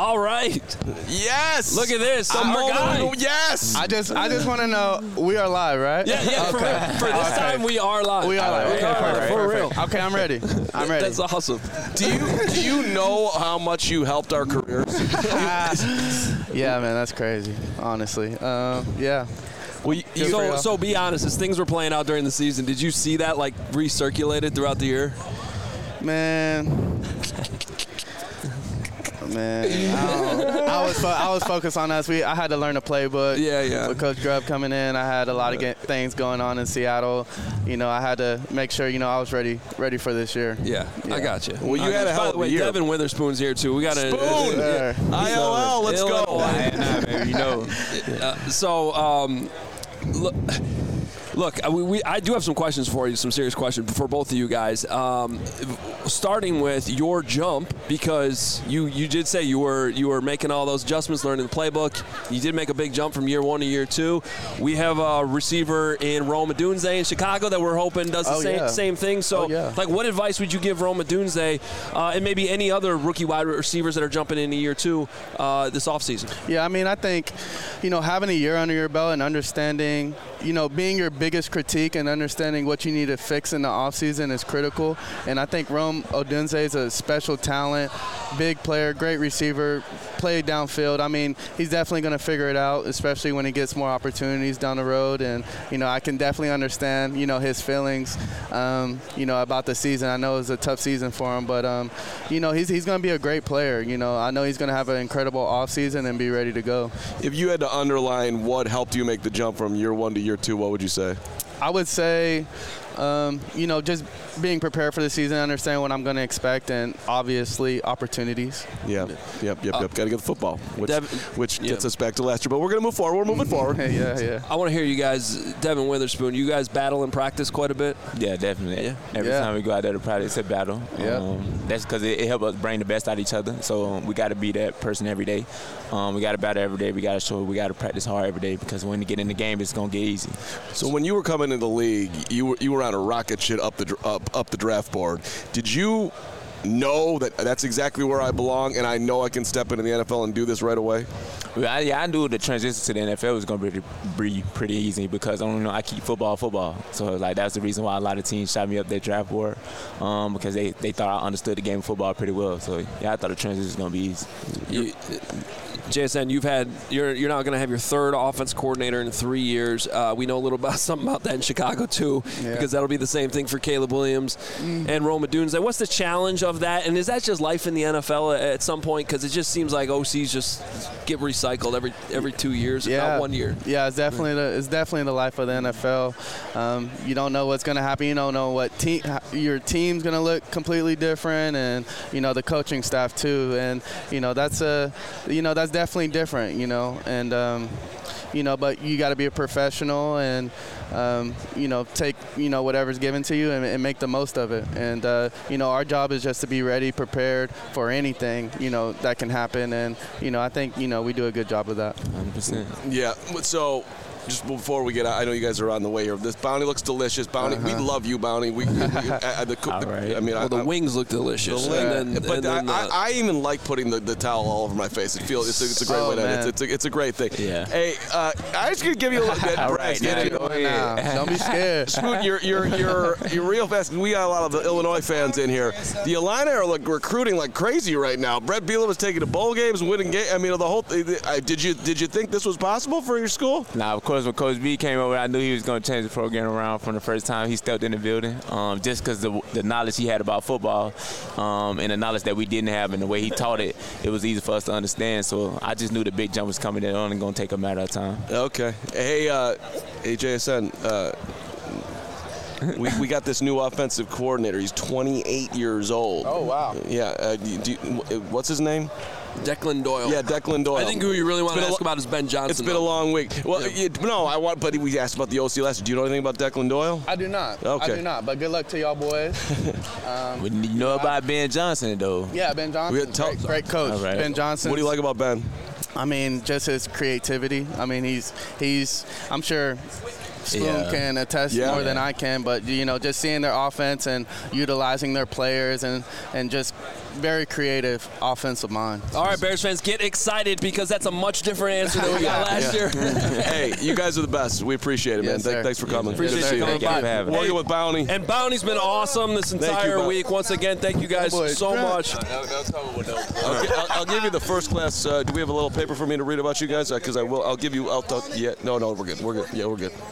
All right. Yes. Look at this. Yes. I just want to know, we are live, right? Yeah. Okay. For this time, we are live. We are live. Okay, perfect. For real. Okay, I'm ready. That's awesome. Do you know how much you helped our careers? Yeah, man, that's crazy. Honestly, yeah. Well, so be honest. As things were playing out during the season, did you see that like recirculated throughout the year? Man, I was focused on us. I had to learn the playbook. Yeah. With Coach Grubb coming in, I had a lot of things going on in Seattle. I had to make sure I was ready for this year. Yeah. I got you. Well, you had a hell of a year. Devin Witherspoon's here too. We got a Spoon. ILL. Let's go. Look, I do have some questions for you, some serious questions for both of you guys. Starting with your jump, because you did say you were making all those adjustments, learning the playbook. You did make a big jump from year 1 to year 2. We have a receiver in Rome Odunze in Chicago that we're hoping does the same thing. So, what advice would you give Rome Odunze and maybe any other rookie wide receivers that are jumping into year 2 this offseason? Yeah, I mean, I think, having a year under your belt and understanding, being your biggest critique and understanding what you need to fix in the offseason is critical. And I think Rome Odunze is a special talent, big player, great receiver, played downfield. I mean, he's definitely going to figure it out, especially when he gets more opportunities down the road. And, I can definitely understand, his feelings, about the season. I know it was a tough season for him, but, he's going to be a great player. I know he's going to have an incredible offseason and be ready to go. If you had to underline what helped you make the jump from year 1 to year 2, what would you say? I would say, just being prepared for the season, understand what I'm going to expect, and obviously opportunities. Yep. Got to get the football, which gets us back to last year. But we're going to move forward. We're moving forward. Yeah. I want to hear you guys, Devin Witherspoon, you guys battle in practice quite a bit? Yeah, definitely. Yeah. Every time we go out there to practice, it's a battle. Yeah. That's because it helps us bring the best out of each other. So we got to be that person every day. We got to battle every day. We got to show we got to practice hard every day, because when you get in the game, it's going to get easy. So when you were coming into the league, you were on a rocket ship up the draft board. Did you know that that's exactly where I belong, and I know I can step into the NFL and do this right away? Well, I knew the transition to the NFL was going to be pretty easy, because I keep football. So that's the reason why a lot of teams shot me up their draft board, because they thought I understood the game of football pretty well. So I thought the transition was going to be easy. JSN, you're now going to have your third offense coordinator in 3 years. We know a little something about that in Chicago too, because that'll be the same thing for Caleb Williams and Rome Odunze. What's the challenge of that, and is that just life in the NFL at some point? Because it just seems like OCs just get recycled every 2 years, not 1 year. Yeah, it's definitely the life of the NFL. You don't know what's going to happen. You don't know what your team's going to look completely different, and the coaching staff too. And that's definitely different, and but you got to be a professional and take whatever's given to you and make the most of it. And our job is just to be ready, prepared for anything that can happen. And I think we do a good job of that. 100%. Yeah. So, just before we get out, I know you guys are on the way here. This bounty looks delicious. Bounty, we love you, Bounty. The wings look delicious. I even like putting the towel all over my face. It's a great way to end. It's a great thing. Yeah. Hey, I just gonna give you a little bit. All right, don't be scared. Scoot, you're real fast. We got a lot of the Illinois fans in here. The Illini are recruiting like crazy right now. Brett Bielema was taking to bowl games, winning games. The whole thing. Did you think this was possible for your school? Nah, of course, when Coach B came over, I knew he was going to change the program around from the first time he stepped in the building, just because the knowledge he had about football and the knowledge that we didn't have, and the way he taught it, it was easy for us to understand. So I just knew the big jump was coming, and only going to take a matter of time. Okay. Hey, JSN, we got this new offensive coordinator. He's 28 years old. Oh, wow. Yeah. What's his name? Declan Doyle. Yeah, Declan Doyle. I think who you really want to ask about is Ben Johnson. It's been a long week. Well, but we asked about the OC last year. Do you know anything about Declan Doyle? I do not. Okay. I do not, but good luck to y'all boys. You know about Ben Johnson, though. Yeah, Ben Johnson, great coach. Right. Ben Johnson. What do you like about Ben? Just his creativity. He's I'm sure Spoon can attest more than I can, but just seeing their offense and utilizing their players and just very creative offensive mind. All right, Bears fans, get excited because that's a much different answer than we got last year. Hey, you guys are the best. We appreciate it, man. Yes, Thanks for coming. Appreciate you coming by. Working with Bounty. And Bounty's been awesome this entire week. Once again, thank you guys so much. I'll give you the first class. Do we have a little paper for me to read about you guys? Because I will. I'll give you. Yeah. No, we're good. We're good. Yeah, we're good.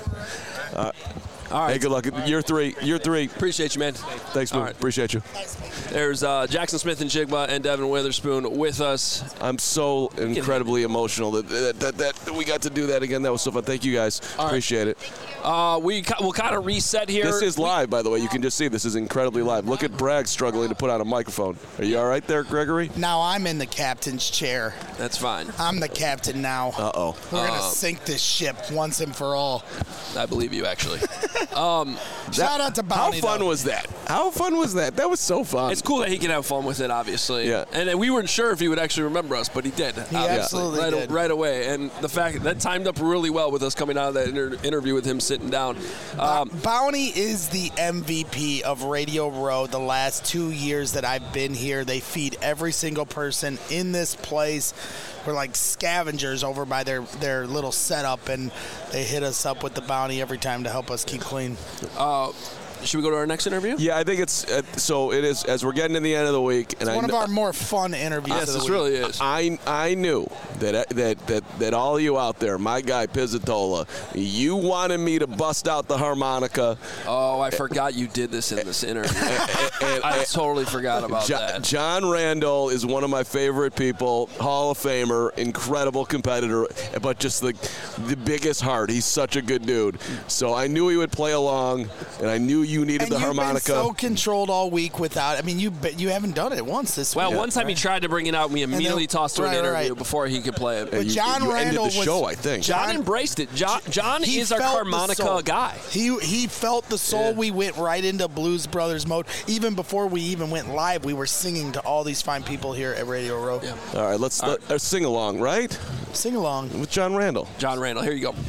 All right. Hey, good luck. Year three. Appreciate you, man. Thanks, man. Right. Appreciate you. There's Jackson Smith and Jigba and Devin Witherspoon with us. I'm so incredibly emotional that we got to do that again. That was so fun. Thank you guys. Appreciate it. We'll kind of reset here. This is live, by the way. You can just see this is incredibly live. Look at Bragg struggling to put on a microphone. Are you all right there, Gregory? Now I'm in the captain's chair. That's fine. I'm the captain now. Uh-oh. We're going to sink this ship once and for all. I believe you, actually. Shout out to Bounty. How fun was that? How fun was that? That was so fun. It's cool that he can have fun with it, obviously. Yeah. And we weren't sure if he would actually remember us, but he did. He absolutely did. Right away. And the fact that timed up really well with us coming out of that interview with him sitting down. Bounty is the MVP of Radio Row the last 2 years that I've been here. They feed every single person in this place. We're like scavengers over by their little setup, and they hit us up with the bounty every time to help us keep clean. Should we go to our next interview? Yeah, I think it's so. It is as we're getting to the end of the week, and it's one of our more fun interviews. Yes, of the this week. really is. I knew that all of you out there, my guy Pizzatola, you wanted me to bust out the harmonica. Oh, I forgot you did this in this interview. I totally forgot about that. John Randall is one of my favorite people, Hall of Famer, incredible competitor, but just the biggest heart. He's such a good dude. So I knew he would play along, and I knew you needed the harmonica. Been so controlled all week without. I mean, you haven't done it once this week. Well, one time he tried to bring it out, and we immediately tossed to an interview before he could play it. But John Randall ended the show, I think. John embraced it. John is our harmonica guy. He felt the soul. Yeah. We went right into Blues Brothers mode. Even before we even went live, we were singing to all these fine people here at Radio Row. Yeah. All right, let's sing along, right? Sing along with John Randall. John Randall, here you go.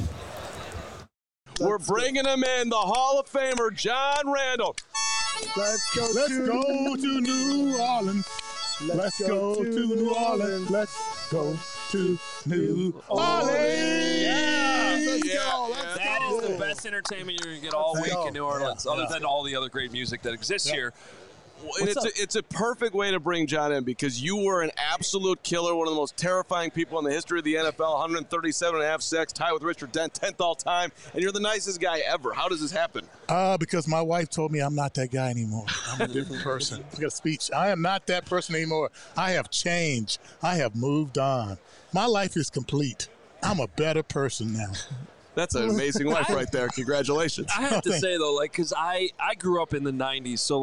We're bringing him in, the Hall of Famer, John Randall. Let's go to New Orleans. Let's go to New Orleans. Let's go to New Orleans. That is the best entertainment you're going to get all week in New Orleans, other than all the other great music that exists here. It's a perfect way to bring John in because you were an absolute killer, one of the most terrifying people in the history of the NFL, 137.5 sacks, tied with Richard Dent, 10th all time, and you're the nicest guy ever. How does this happen? Because my wife told me I'm not that guy anymore. I'm a different person. I got a speech. I am not that person anymore. I have changed. I have moved on. My life is complete. I'm a better person now. That's an amazing wife right there. Congratulations. I have to say, though, because I grew up in the 90s, so,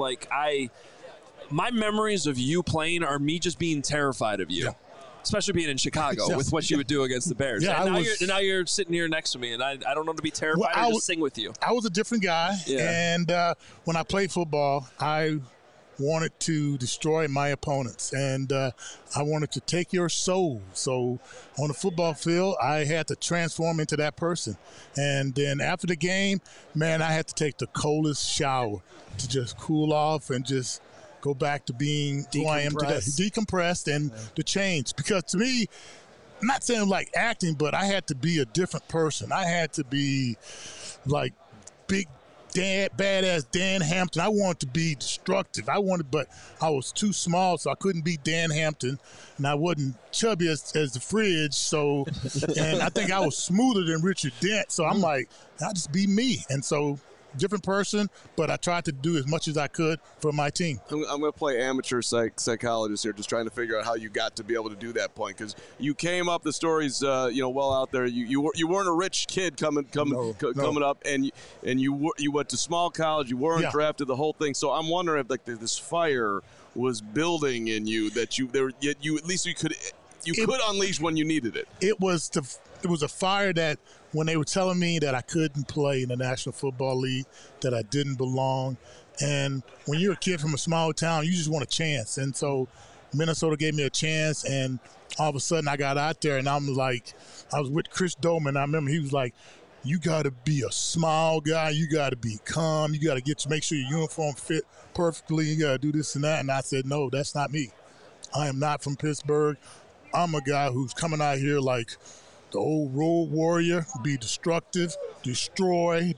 my memories of you playing are me just being terrified of you. Yeah. Especially being in Chicago with what you would do against the Bears. Yeah, and now you're sitting here next to me, and I don't know to be terrified or just sing with you. I was a different guy, and when I played football, I wanted to destroy my opponents, and I wanted to take your soul. So on the football field, I had to transform into that person. And then after the game, man, I had to take the coldest shower to just cool off and just go back to being who I am today. Decompressed and to change. Because to me, I'm not saying like acting, but I had to be a different person. I had to be like big badass Dan Hampton. I wanted to be destructive. But I was too small, so I couldn't be Dan Hampton, and I wasn't chubby as the fridge. So, and I think I was smoother than Richard Dent. So I'm like, I'll just be me. And so, different person, but I tried to do as much as I could for my team. I'm going to play amateur psychologist here, just trying to figure out how you got to be able to do that point, because you came up, the story's well out there. You weren't a rich kid coming up, and you went to small college. You weren't drafted, the whole thing. So I'm wondering if this fire was building in you that you at least you could unleash when you needed it. It was a fire that when they were telling me that I couldn't play in the National Football League, that I didn't belong. And when you're a kid from a small town, you just want a chance. And so Minnesota gave me a chance, and all of a sudden I got out there, and I was with Chris Doman. I remember he was like, you got to be a smile guy. You got to be calm. You got to make sure your uniform fit perfectly. You got to do this and that. And I said, no, that's not me. I am not from Pittsburgh. I'm a guy who's coming out here like the old road warrior, be destructive, destroy,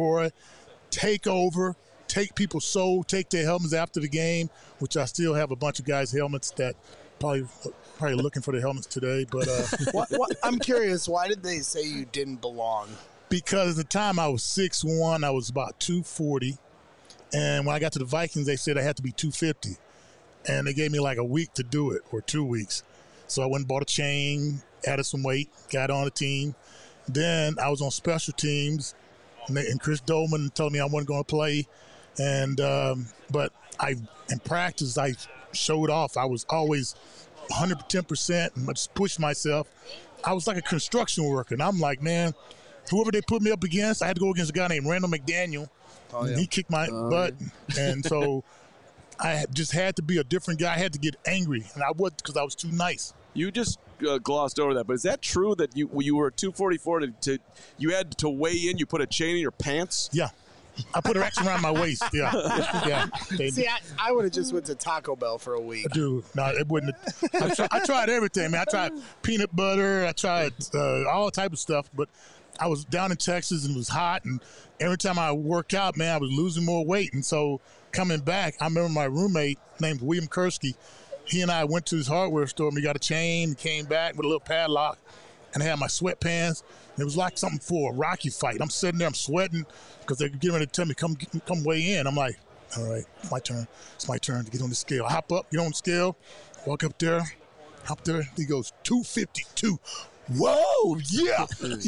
take over, take people's soul, take their helmets after the game, which I still have a bunch of guys' helmets that probably looking for the helmets today. But I'm curious, why did they say you didn't belong? Because at the time I was 6'1", I was about 240. And when I got to the Vikings, they said I had to be 250. And they gave me like a week to do it, or 2 weeks. So I went and bought a chain, added some weight, got on the team. Then I was on special teams, and Chris Dolman told me I wasn't going to play. And but in practice, I showed off. I was always 110% and just pushed myself. I was like a construction worker. And I'm like, man, whoever they put me up against, I had to go against a guy named Randall McDaniel. Oh, yeah. He kicked my butt. Yeah. And so I just had to be a different guy. I had to get angry, and I would because I was too nice. You just glossed over that, but is that true that you were 244 you had to weigh in? You put a chain in your pants? Yeah. I put it actually around my waist. Yeah. See, I would have just went to Taco Bell for a week. Dude, no, it wouldn't. I tried everything, man. I tried peanut butter. I tried all type of stuff, but I was down in Texas and it was hot, and every time I worked out, man, I was losing more weight. And so coming back, I remember my roommate named William Kursky. He and I went to his hardware store, and we got a chain, came back with a little padlock, and I had my sweatpants. And it was like something for a Rocky fight. I'm sitting there, I'm sweating because they're getting ready to tell me, come weigh in. I'm like, all right, it's my turn. It's my turn to get on the scale. I hop up, get on the scale, walk up there. He goes, 252. Whoa, yeah.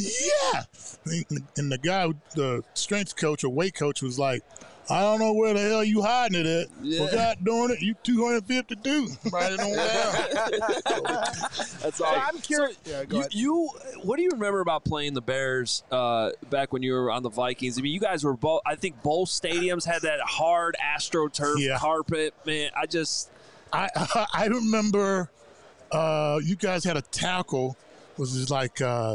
And the guy, the strength coach or weight coach was like, I don't know where the hell you hiding it at. Yeah. Well, God darn it, you 252. Right on down. That's all. I'm curious. Yeah, go ahead. What do you remember about playing the Bears back when you were on the Vikings? I mean, you guys were both. I think both stadiums had that hard AstroTurf carpet. Man, I remember you guys had a tackle. Was just like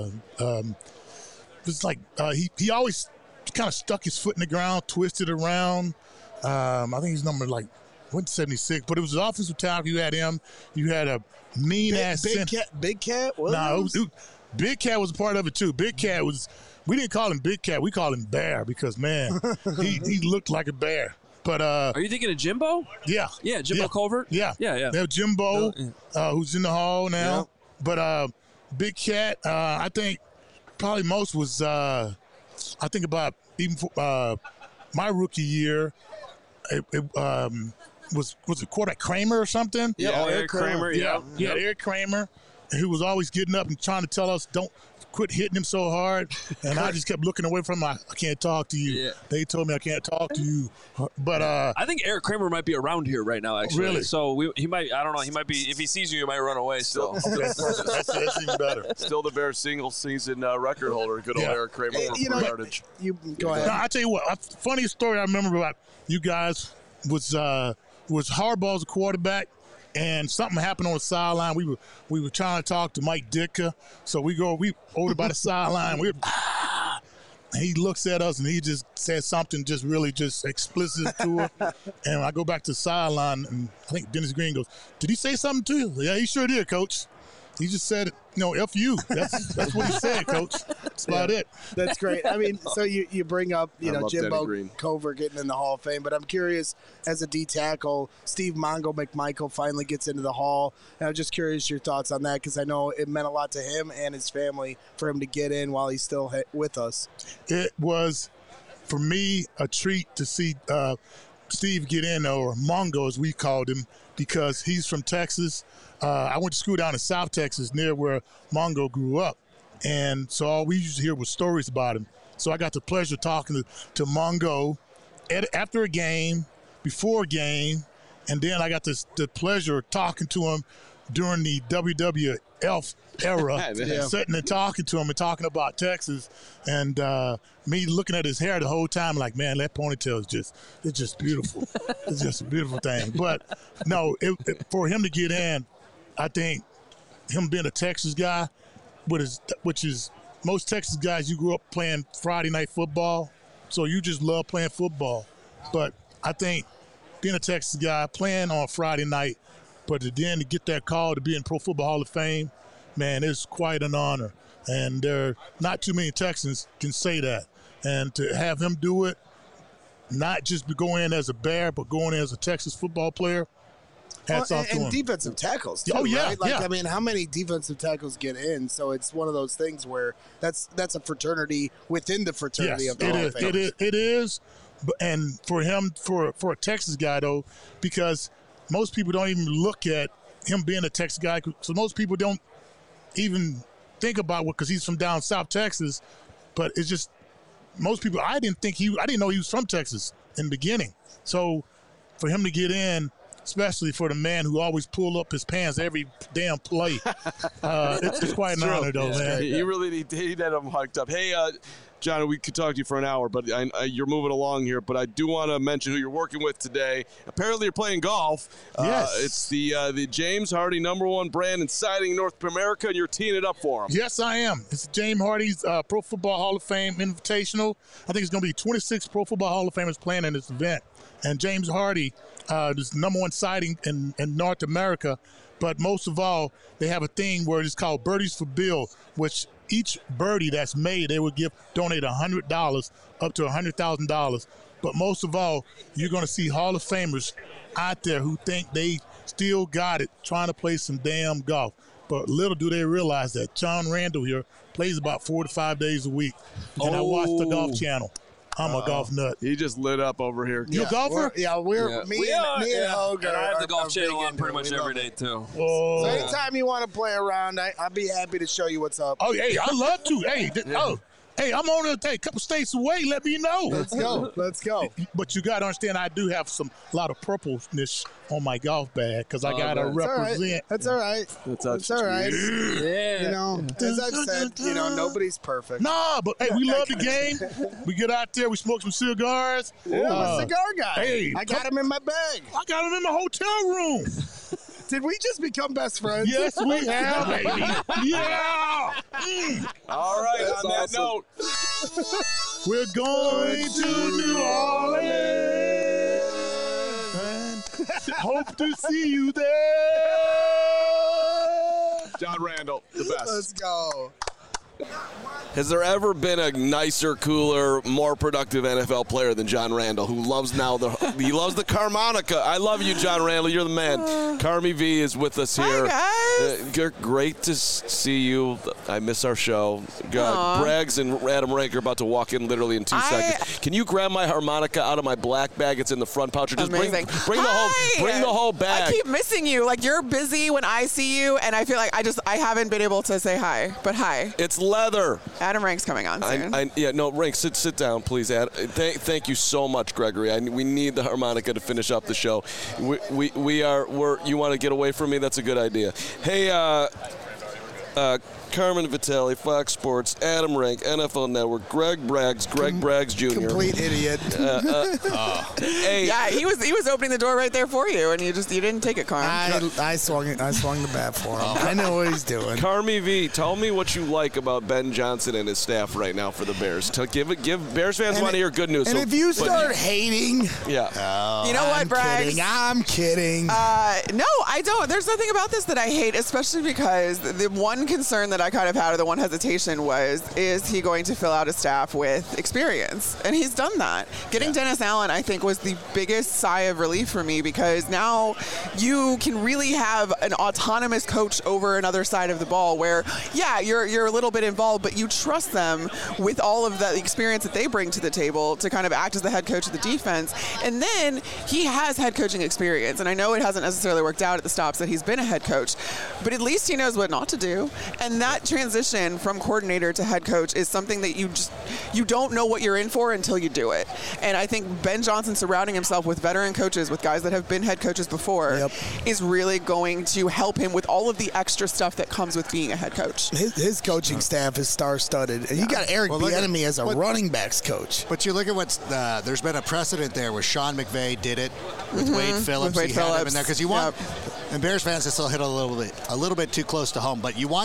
he always kind of stuck his foot in the ground, twisted around. I think he's number like 176, but it was an offensive tackle. You had him. You had a mean ass Big Cat. No, Big Cat was a part of it too. Big Cat was. We didn't call him Big Cat. We called him Bear because man, he looked like a bear. But are you thinking of Jimbo? Yeah, Jimbo Covert. Yeah. They have Jimbo, who's in the hall now. Yeah. But Big Cat, I think probably most was. I think about even for, my rookie year, it was it quarterback Kramer or something? Yeah, Eric Kramer. Yeah, Eric Kramer, who was always getting up and trying to tell us don't quit hitting him so hard, and I just kept looking away from him. I can't talk to you. Yeah. They told me I can't talk to you, but I think Eric Kramer might be around here right now. Actually, really? So he might. I don't know. He might be. If he sees you, he might run away. Still, that's even better. Still the Bears single season record holder. Good old Eric Kramer for yardage. You go ahead. Now, I tell you what. Funniest story I remember about you guys was Harbaugh's a quarterback. And something happened on the sideline. We were trying to talk to Mike Ditka. So we over by the sideline. He looks at us and he just said something just really just explicit to her. And I go back to the sideline and I think Dennis Green goes, "Did he say something to you?" "Yeah, he sure did, Coach. He just said, F you." That's what he said, Coach. That's about it. That's great. I mean, so you bring up, Jimbo Covert getting in the Hall of Fame, but I'm curious, as a D tackle, Steve Mongo McMichael finally gets into the Hall. And I'm just curious your thoughts on that because I know it meant a lot to him and his family for him to get in while he's still with us. It was, for me, a treat to see Steve get in, or Mongo as we called him, because he's from Texas. I went to school down in South Texas near where Mongo grew up. And so all we used to hear was stories about him. So I got the pleasure talking to Mongo after a game, before a game, and then I got the pleasure of talking to him during the WWF era, sitting and talking to him and talking about Texas, and me looking at his hair the whole time like, man, that ponytail is just beautiful. It's just a beautiful thing. But no, for him to get in, I think him being a Texas guy, which is most Texas guys, you grew up playing Friday night football, so you just love playing football. But I think being a Texas guy, playing on Friday night, but then to get that call to be in Pro Football Hall of Fame, man, it's quite an honor. And not too many Texans can say that. And to have him do it, not just go in as a Bear, but going in as a Texas football player, hats off to him. And defensive tackles, too, right? I mean, how many defensive tackles get in? So it's one of those things where that's a fraternity within the fraternity of the Hall of Fame. It is. And for him, for a Texas guy, though, because most people don't even look at him being a Texas guy. So most people don't even think about it because he's from down South Texas. But it's just most people, I didn't know he was from Texas in the beginning. So for him to get in, especially for the man who always pull up his pants every damn play, it's quite an honor, though, man. He really had him hyped up. Hey, John, we could talk to you for an hour, but you're moving along here. But I do want to mention who you're working with today. Apparently, you're playing golf. Yes. It's the James Hardy #1 brand in siding North America, and you're teeing it up for him. Yes, I am. It's James Hardy's Pro Football Hall of Fame Invitational. I think it's going to be 26 Pro Football Hall of Famers playing in this event. And James Hardy is #1 siding in North America. But most of all, they have a thing where it's called Birdies for Bill, which each birdie that's made, they would donate $100 up to $100,000. But most of all, you're going to see Hall of Famers out there who think they still got it trying to play some damn golf. But little do they realize that John Randall here plays about 4 to 5 days a week. And I watch the Golf Channel. I'm a golf nut. He just lit up over here. You a golfer? Me and Hogue I have the Golf Channel on pretty much every day, too. Oh. So anytime you want to play around, I'll be happy to show you what's up. Oh, hey, I love to. Hey, I'm on a couple states away. Let me know. Let's go. But you got to understand, I do have a lot of purpleness on my golf bag because I got to represent. That's all right. That's all right. Yeah. You know, as I've said, nobody's perfect. Nah, but hey, we love the game. We get out there, we smoke some cigars. I'm a cigar guy. Hey, I got him in my bag. I got him in my hotel room. Did we just become best friends? Yes, we have, baby. Yeah. All right, that's on that note. We're going to New Orleans. And hope to see you there. John Randall, the best. Let's go. Has there ever been a nicer, cooler, more productive NFL player than John Randall, who loves the Carmonica? I love you, John Randall. You're the man. Carmi V is with us here. Hi, guys. Great to see you. I miss our show. Braggs and Adam Rank are about to walk in literally in 2 seconds. Can you grab my harmonica out of my black bag? It's in the front pouch. Or just bring the whole bag. I keep missing you. Like, you're busy when I see you, and I feel like I haven't been able to say hi. But hi. It's leather. Adam Rank's coming on soon. Rank, sit down, please. Thank you so much, Gregory. We need the harmonica to finish up the show. You want to get away from me? That's a good idea. Hey, Carmen Vitale, Fox Sports, Adam Rank, NFL Network, Greg Braggs Jr. Complete idiot. Hey, yeah, he was opening the door right there for you, and you didn't take it, Carm. I swung the bat for him. I know what he's doing. Carmi V, tell me what you like about Ben Johnson and his staff right now for the Bears. Give Bears fans want to hear good news. And if you start hating, you know what, Braggs? I'm kidding. No, I don't. There's nothing about this that I hate, especially because the one concern that I kind of had, or the one hesitation is he going to fill out a staff with experience? And he's done that. Getting Dennis Allen, I think, was the biggest sigh of relief for me, because now you can really have an autonomous coach over another side of the ball where, you're a little bit involved, but you trust them with all of the experience that they bring to the table to kind of act as the head coach of the defense. And then he has head coaching experience. And I know it hasn't necessarily worked out at the stops that he's been a head coach, but at least he knows what not to do. And that transition from coordinator to head coach is something that you don't know what you're in for until you do it. And I think Ben Johnson surrounding himself with veteran coaches, with guys that have been head coaches before, is really going to help him with all of the extra stuff that comes with being a head coach. His coaching staff is star-studded. And you got Eric Bieniemy as a running backs coach. But you look at what's there's been a precedent there where Sean McVay did it with Wade Phillips. He had him in there because you want. And Bears fans, this will hit a little bit too close to home, but you want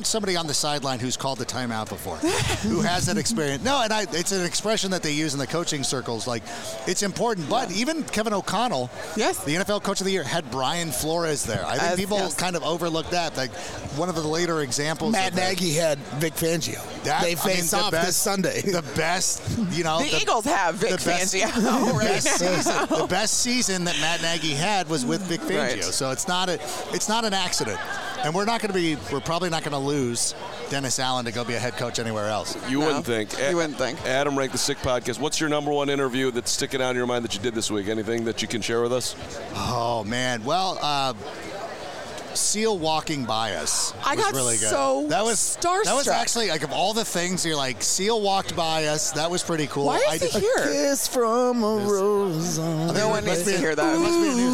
want somebody on the sideline who's called the timeout before, who has that experience. No, and it's an expression that they use in the coaching circles. Like, it's important. But even Kevin O'Connell, the NFL Coach of the Year, had Brian Flores there. I think people kind of overlook that. Like, one of the later examples. Matt Nagy had Vic Fangio. They face off this Sunday. The best, the Eagles have Vic Fangio right now. The best season that Matt Nagy had was with Vic Fangio. Right. So it's not an accident. And we're probably not going to lose Dennis Allen to go be a head coach anywhere else. You wouldn't think. You wouldn't think. Adam Rank, the Sick Podcast. What's your number one interview that's sticking out in your mind that you did this week? Anything that you can share with us? Oh, man. Well, Seal walking by us I was got really good. so that was starstruck. That was actually, like, of all the things, you're like, Seal walked by us. That was pretty cool. Why is he here? A kiss from a rose. No one needs to hear that.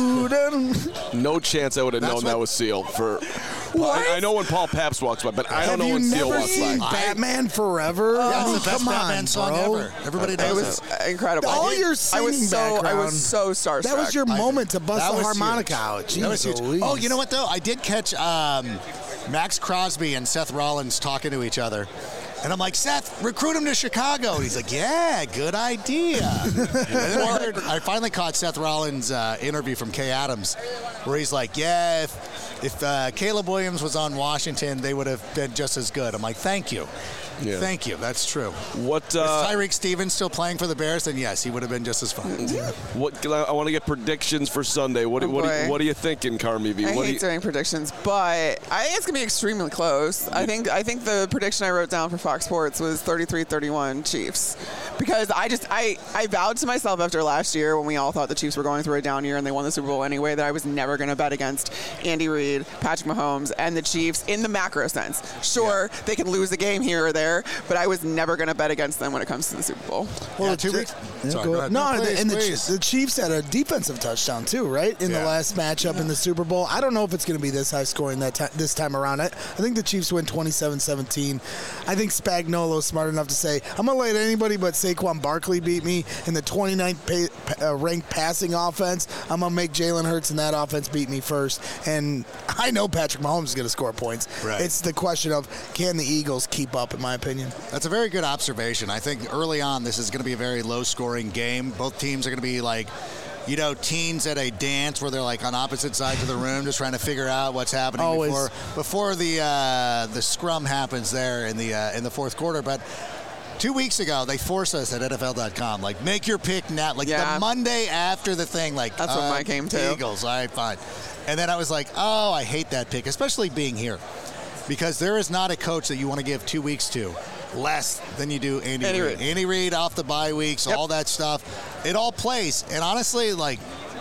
No chance I would have known that was Seal. I know when Paul Pabst walks by, but I don't know when Seal walks by. Have you never seen Batman Forever? Yeah, it's the best Batman on, song bro. ever. Everybody knows it. Incredible. All your singing background. I was so starstruck. That was your moment to bust That the was harmonica huge. out. That was huge. Louise. Oh, you know what, though? I did catch Max Crosby and Seth Rollins talking to each other. And I'm like, Seth, recruit him to Chicago. And he's like, yeah, good idea. And then I finally caught Seth Rollins' interview from Kay Adams, where he's like, yeah, if Caleb Williams was on Washington, they would have been just as good. I'm like, thank you. Yeah. Thank you. That's true. What? Is Tyreek Stevens still playing for the Bears? Then yes, he would have been just as fun. I want to get predictions for Sunday. What are you thinking, Carmi V? I hate doing predictions, but I think it's gonna be extremely close. I think the prediction I wrote down for Fox Sports was 33-31 Chiefs, because I vowed to myself after last year when we all thought the Chiefs were going through a down year and they won the Super Bowl anyway that I was never gonna bet against Andy Reid, Patrick Mahomes, and the Chiefs in the macro sense. Sure, they can lose a game here or there, but I was never going to bet against them when it comes to the Super Bowl. Well, 2 weeks. Sorry, go ahead. The Chiefs had a defensive touchdown too, right? In the last matchup in the Super Bowl. I don't know if it's going to be this high scoring this time around. I think the Chiefs win 27-17. I think Spagnuolo's smart enough to say, I'm going to let anybody but Saquon Barkley beat me in the 29th ranked passing offense. I'm going to make Jalen Hurts in that offense beat me first. And I know Patrick Mahomes is going to score points. Right. It's the question of, can the Eagles keep up, in my opinion. That's a very good observation. I think early on this is going to be a very low-scoring game. Both teams are going to be like, teens at a dance where they're like on opposite sides of the room just trying to figure out what's happening before the scrum happens there in the fourth quarter. But 2 weeks ago, they forced us at NFL.com, like, make your pick now. Like, the Monday after the thing, like, that's what mine came to. Eagles, all right, fine. And then I was like, oh, I hate that pick, especially being here. Because there is not a coach that you want to give 2 weeks to less than you do Andy Reid. Andy Reid off the bye weeks, all that stuff. It all plays. And honestly, like,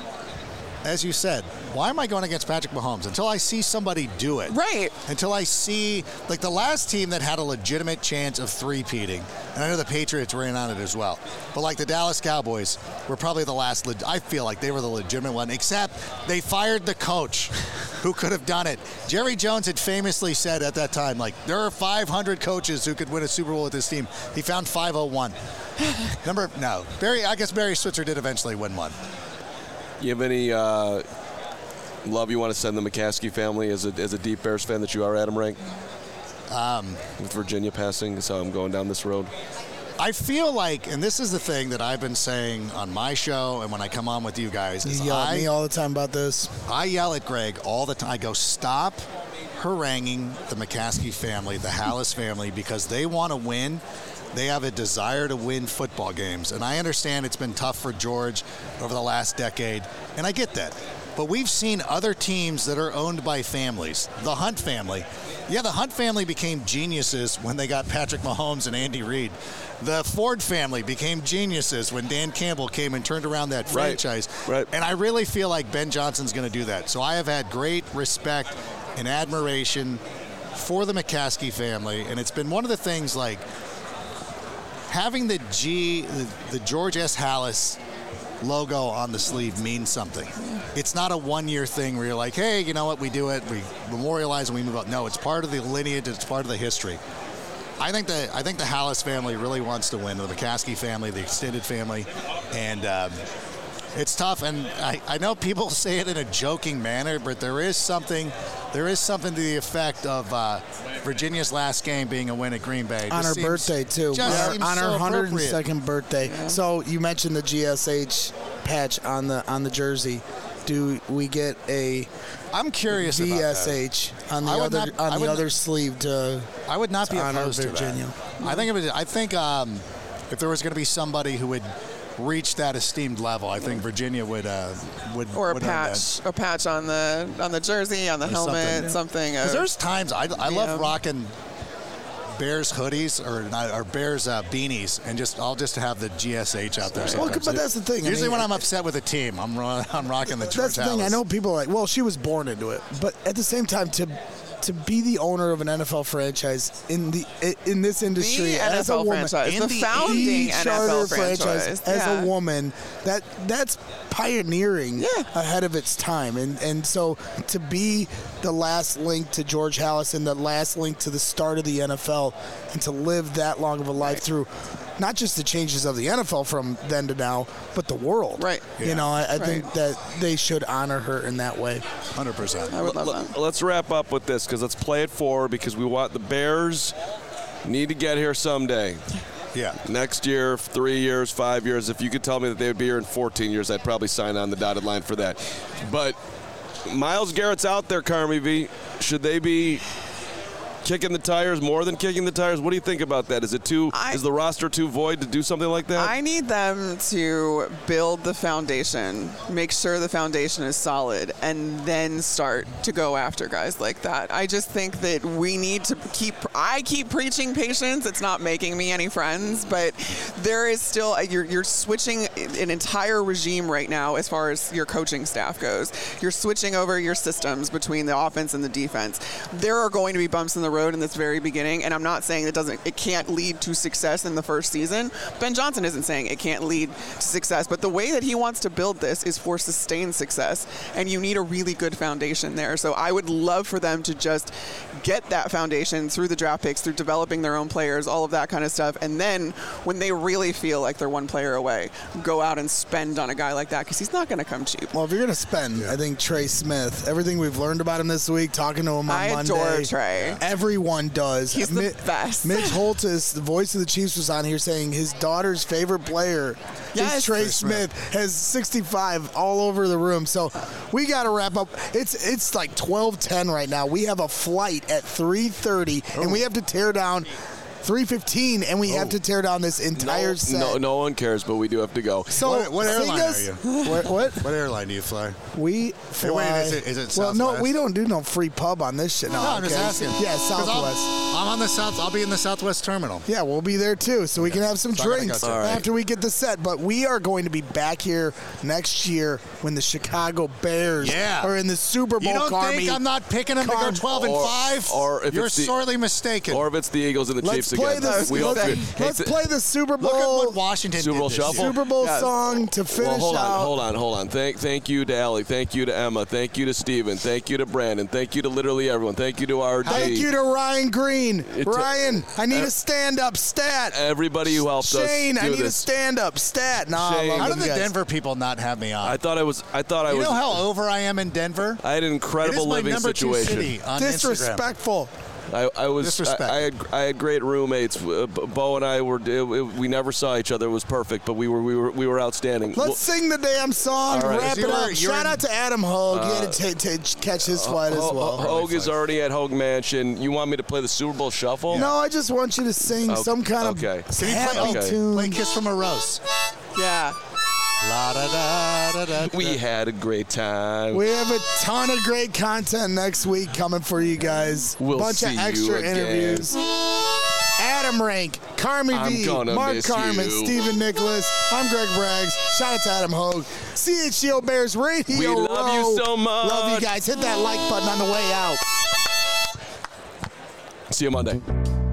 as you said, why am I going against Patrick Mahomes? Until I see somebody do it. Right. Until I see, like, the last team that had a legitimate chance of three-peating, and I know the Patriots were in on it as well, but like the Dallas Cowboys were probably the last, I feel like they were the legitimate one, except they fired the coach who could have done it. Jerry Jones had famously said at that time, like, there are 500 coaches who could win a Super Bowl with this team. He found 501. I guess Barry Switzer did eventually win one. You have any love you want to send the McCaskey family as a deep Bears fan that you are, Adam Rank? With Virginia passing, so I'm going down this road. I feel like, and this is the thing that I've been saying on my show and when I come on with you guys, is you yell at me all the time about this. I yell at Greg all the time. I go, stop haranguing the McCaskey family, the Hallis family, because they want to win. They have a desire to win football games. And I understand it's been tough for George over the last decade, and I get that. But we've seen other teams that are owned by families. The Hunt family. Yeah, the Hunt family became geniuses when they got Patrick Mahomes and Andy Reid. The Ford family became geniuses when Dan Campbell came and turned around that franchise. Right. And I really feel like Ben Johnson's going to do that. So I have had great respect and admiration for the McCaskey family. And it's been one of the things, like, having the George S. Hallis logo on the sleeve means something. It's not a one-year thing where you're like, hey, you know what, we do it, we memorialize and we move on. No, it's part of the lineage, it's part of the history. I think the Hallis family really wants to win, the McCaskey family, the extended family, and It's tough, and I know people say it in a joking manner, but there is something to the effect of Virginia's last game being a win at Green Bay. On her birthday, too. On her 102nd birthday. Yeah. So you mentioned the GSH patch on the jersey. Do we get a I'm curious VSH on the other sleeve to I would not be opposed to Virginia. That. I think if there was going to be somebody who would reach that esteemed level, I think Virginia would or a patch on the jersey, on the helmet, something. Because there's times I love rocking Bears hoodies or Bears beanies, and I'll just have the GSH out there. Well, but that's the thing. Usually when I'm upset with a team, I'm rocking the George That's the thing. I know people are like, well, she was born into it, but at the same time, to be the owner of an NFL franchise in this industry the as NFL a woman, franchise, the founding NFL franchise as a woman, that's pioneering ahead of its time, and so to be the last link to George Halas and the last link to the start of the NFL, and to live that long of a life through not just the changes of the NFL from then to now, but the world. Right. You know, I think that they should honor her in that way. 100%. I would love that. Let's wrap up with this, because let's play it forward, because we want the Bears need to get here someday. Yeah. Next year, 3 years, 5 years. If you could tell me that they would be here in 14 years, I'd probably sign on the dotted line for that. But Myles Garrett's out there, Carmi V. Should they be kicking the tires, more than kicking the tires? What do you think about that? Is the roster too void to do something like that? I need them to build the foundation, make sure the foundation is solid, and then start to go after guys like that. I just think that we need to I keep preaching patience. It's not making me any friends, but there is still, you're switching an entire regime right now as far as your coaching staff goes. You're switching over your systems between the offense and the defense. There are going to be bumps in the road in this very beginning, and I'm not saying it can't lead to success in the first season. Ben Johnson isn't saying it can't lead to success, but the way that he wants to build this is for sustained success, and you need a really good foundation there. So I would love for them to just get that foundation through the draft picks, through developing their own players, all of that kind of stuff, and then when they really feel like they're one player away, go out and spend on a guy like that, because he's not going to come cheap. Well, if you're going to spend, I think Trey Smith, everything we've learned about him this week, talking to him on Monday. I adore Trey. Everyone does. He's the best. Mitch Holtis, the voice of the Chiefs, was on here saying his daughter's favorite player is Trey Smith. Has 65 all over the room. So we got to wrap up. It's like 12:10 right now. We have a flight at 3:30, and we have to tear down 3:15, and we have to tear down this entire set. No one cares, but we do have to go. So what airline are you? What airline do you fly? We fly. Hey, wait, is it Southwest? Well, no, we don't do no free pub on this shit. No, I'm just asking. Yeah, Southwest. I'm on the South. I'll be in the Southwest terminal. Yeah, we'll be there too, so we can have some drinks after we get the set. But we are going to be back here next year when the Chicago Bears are in the Super Bowl. You don't think I'm not picking them to go 12-5? Or if you're sorely mistaken. Or if it's the Eagles and the Chiefs again. Let's play the Super Bowl. Look at what Washington Super Bowl did this shuffle. year. Super Bowl song to finish out. Hold on. Thank you to Allie. Thank you to Emma. Thank you to Steven. Thank you to Brandon. Thank you to literally everyone. Thank you to RD. Thank you to Ryan Green. Ryan, I need a stand-up stat. Everybody who helped us. Shane, I need this. a stand-up stat. How did the Denver people not have me on? I thought I was. You know how over I am in Denver? I had an incredible living situation. It is my number 2 city on Disrespectful. I was. I had great roommates. Bo and I we never saw each other. It was perfect, but we were outstanding. Let's sing the damn song. Right. Wrap it up. Shout out to Adam Hogue. He had to catch his flight as well. Hogue is already at Hogue Mansion. You want me to play the Super Bowl Shuffle? No, I just want you to sing some kind of happy tune. Play Kiss from a Rose. Yeah. La, da, da, da, da, we had a great time. We have a ton of great content next week coming for you guys. We'll bunch see of extra you again. interviews. Adam Rank, Carmi V, Mark Carmen, Stephen Nicholas. I'm Greg Braggs. Shout out to Adam Hogue. CHGO Bears Radio. We love you so much. Love you guys. Hit that like button on the way out. See you Monday.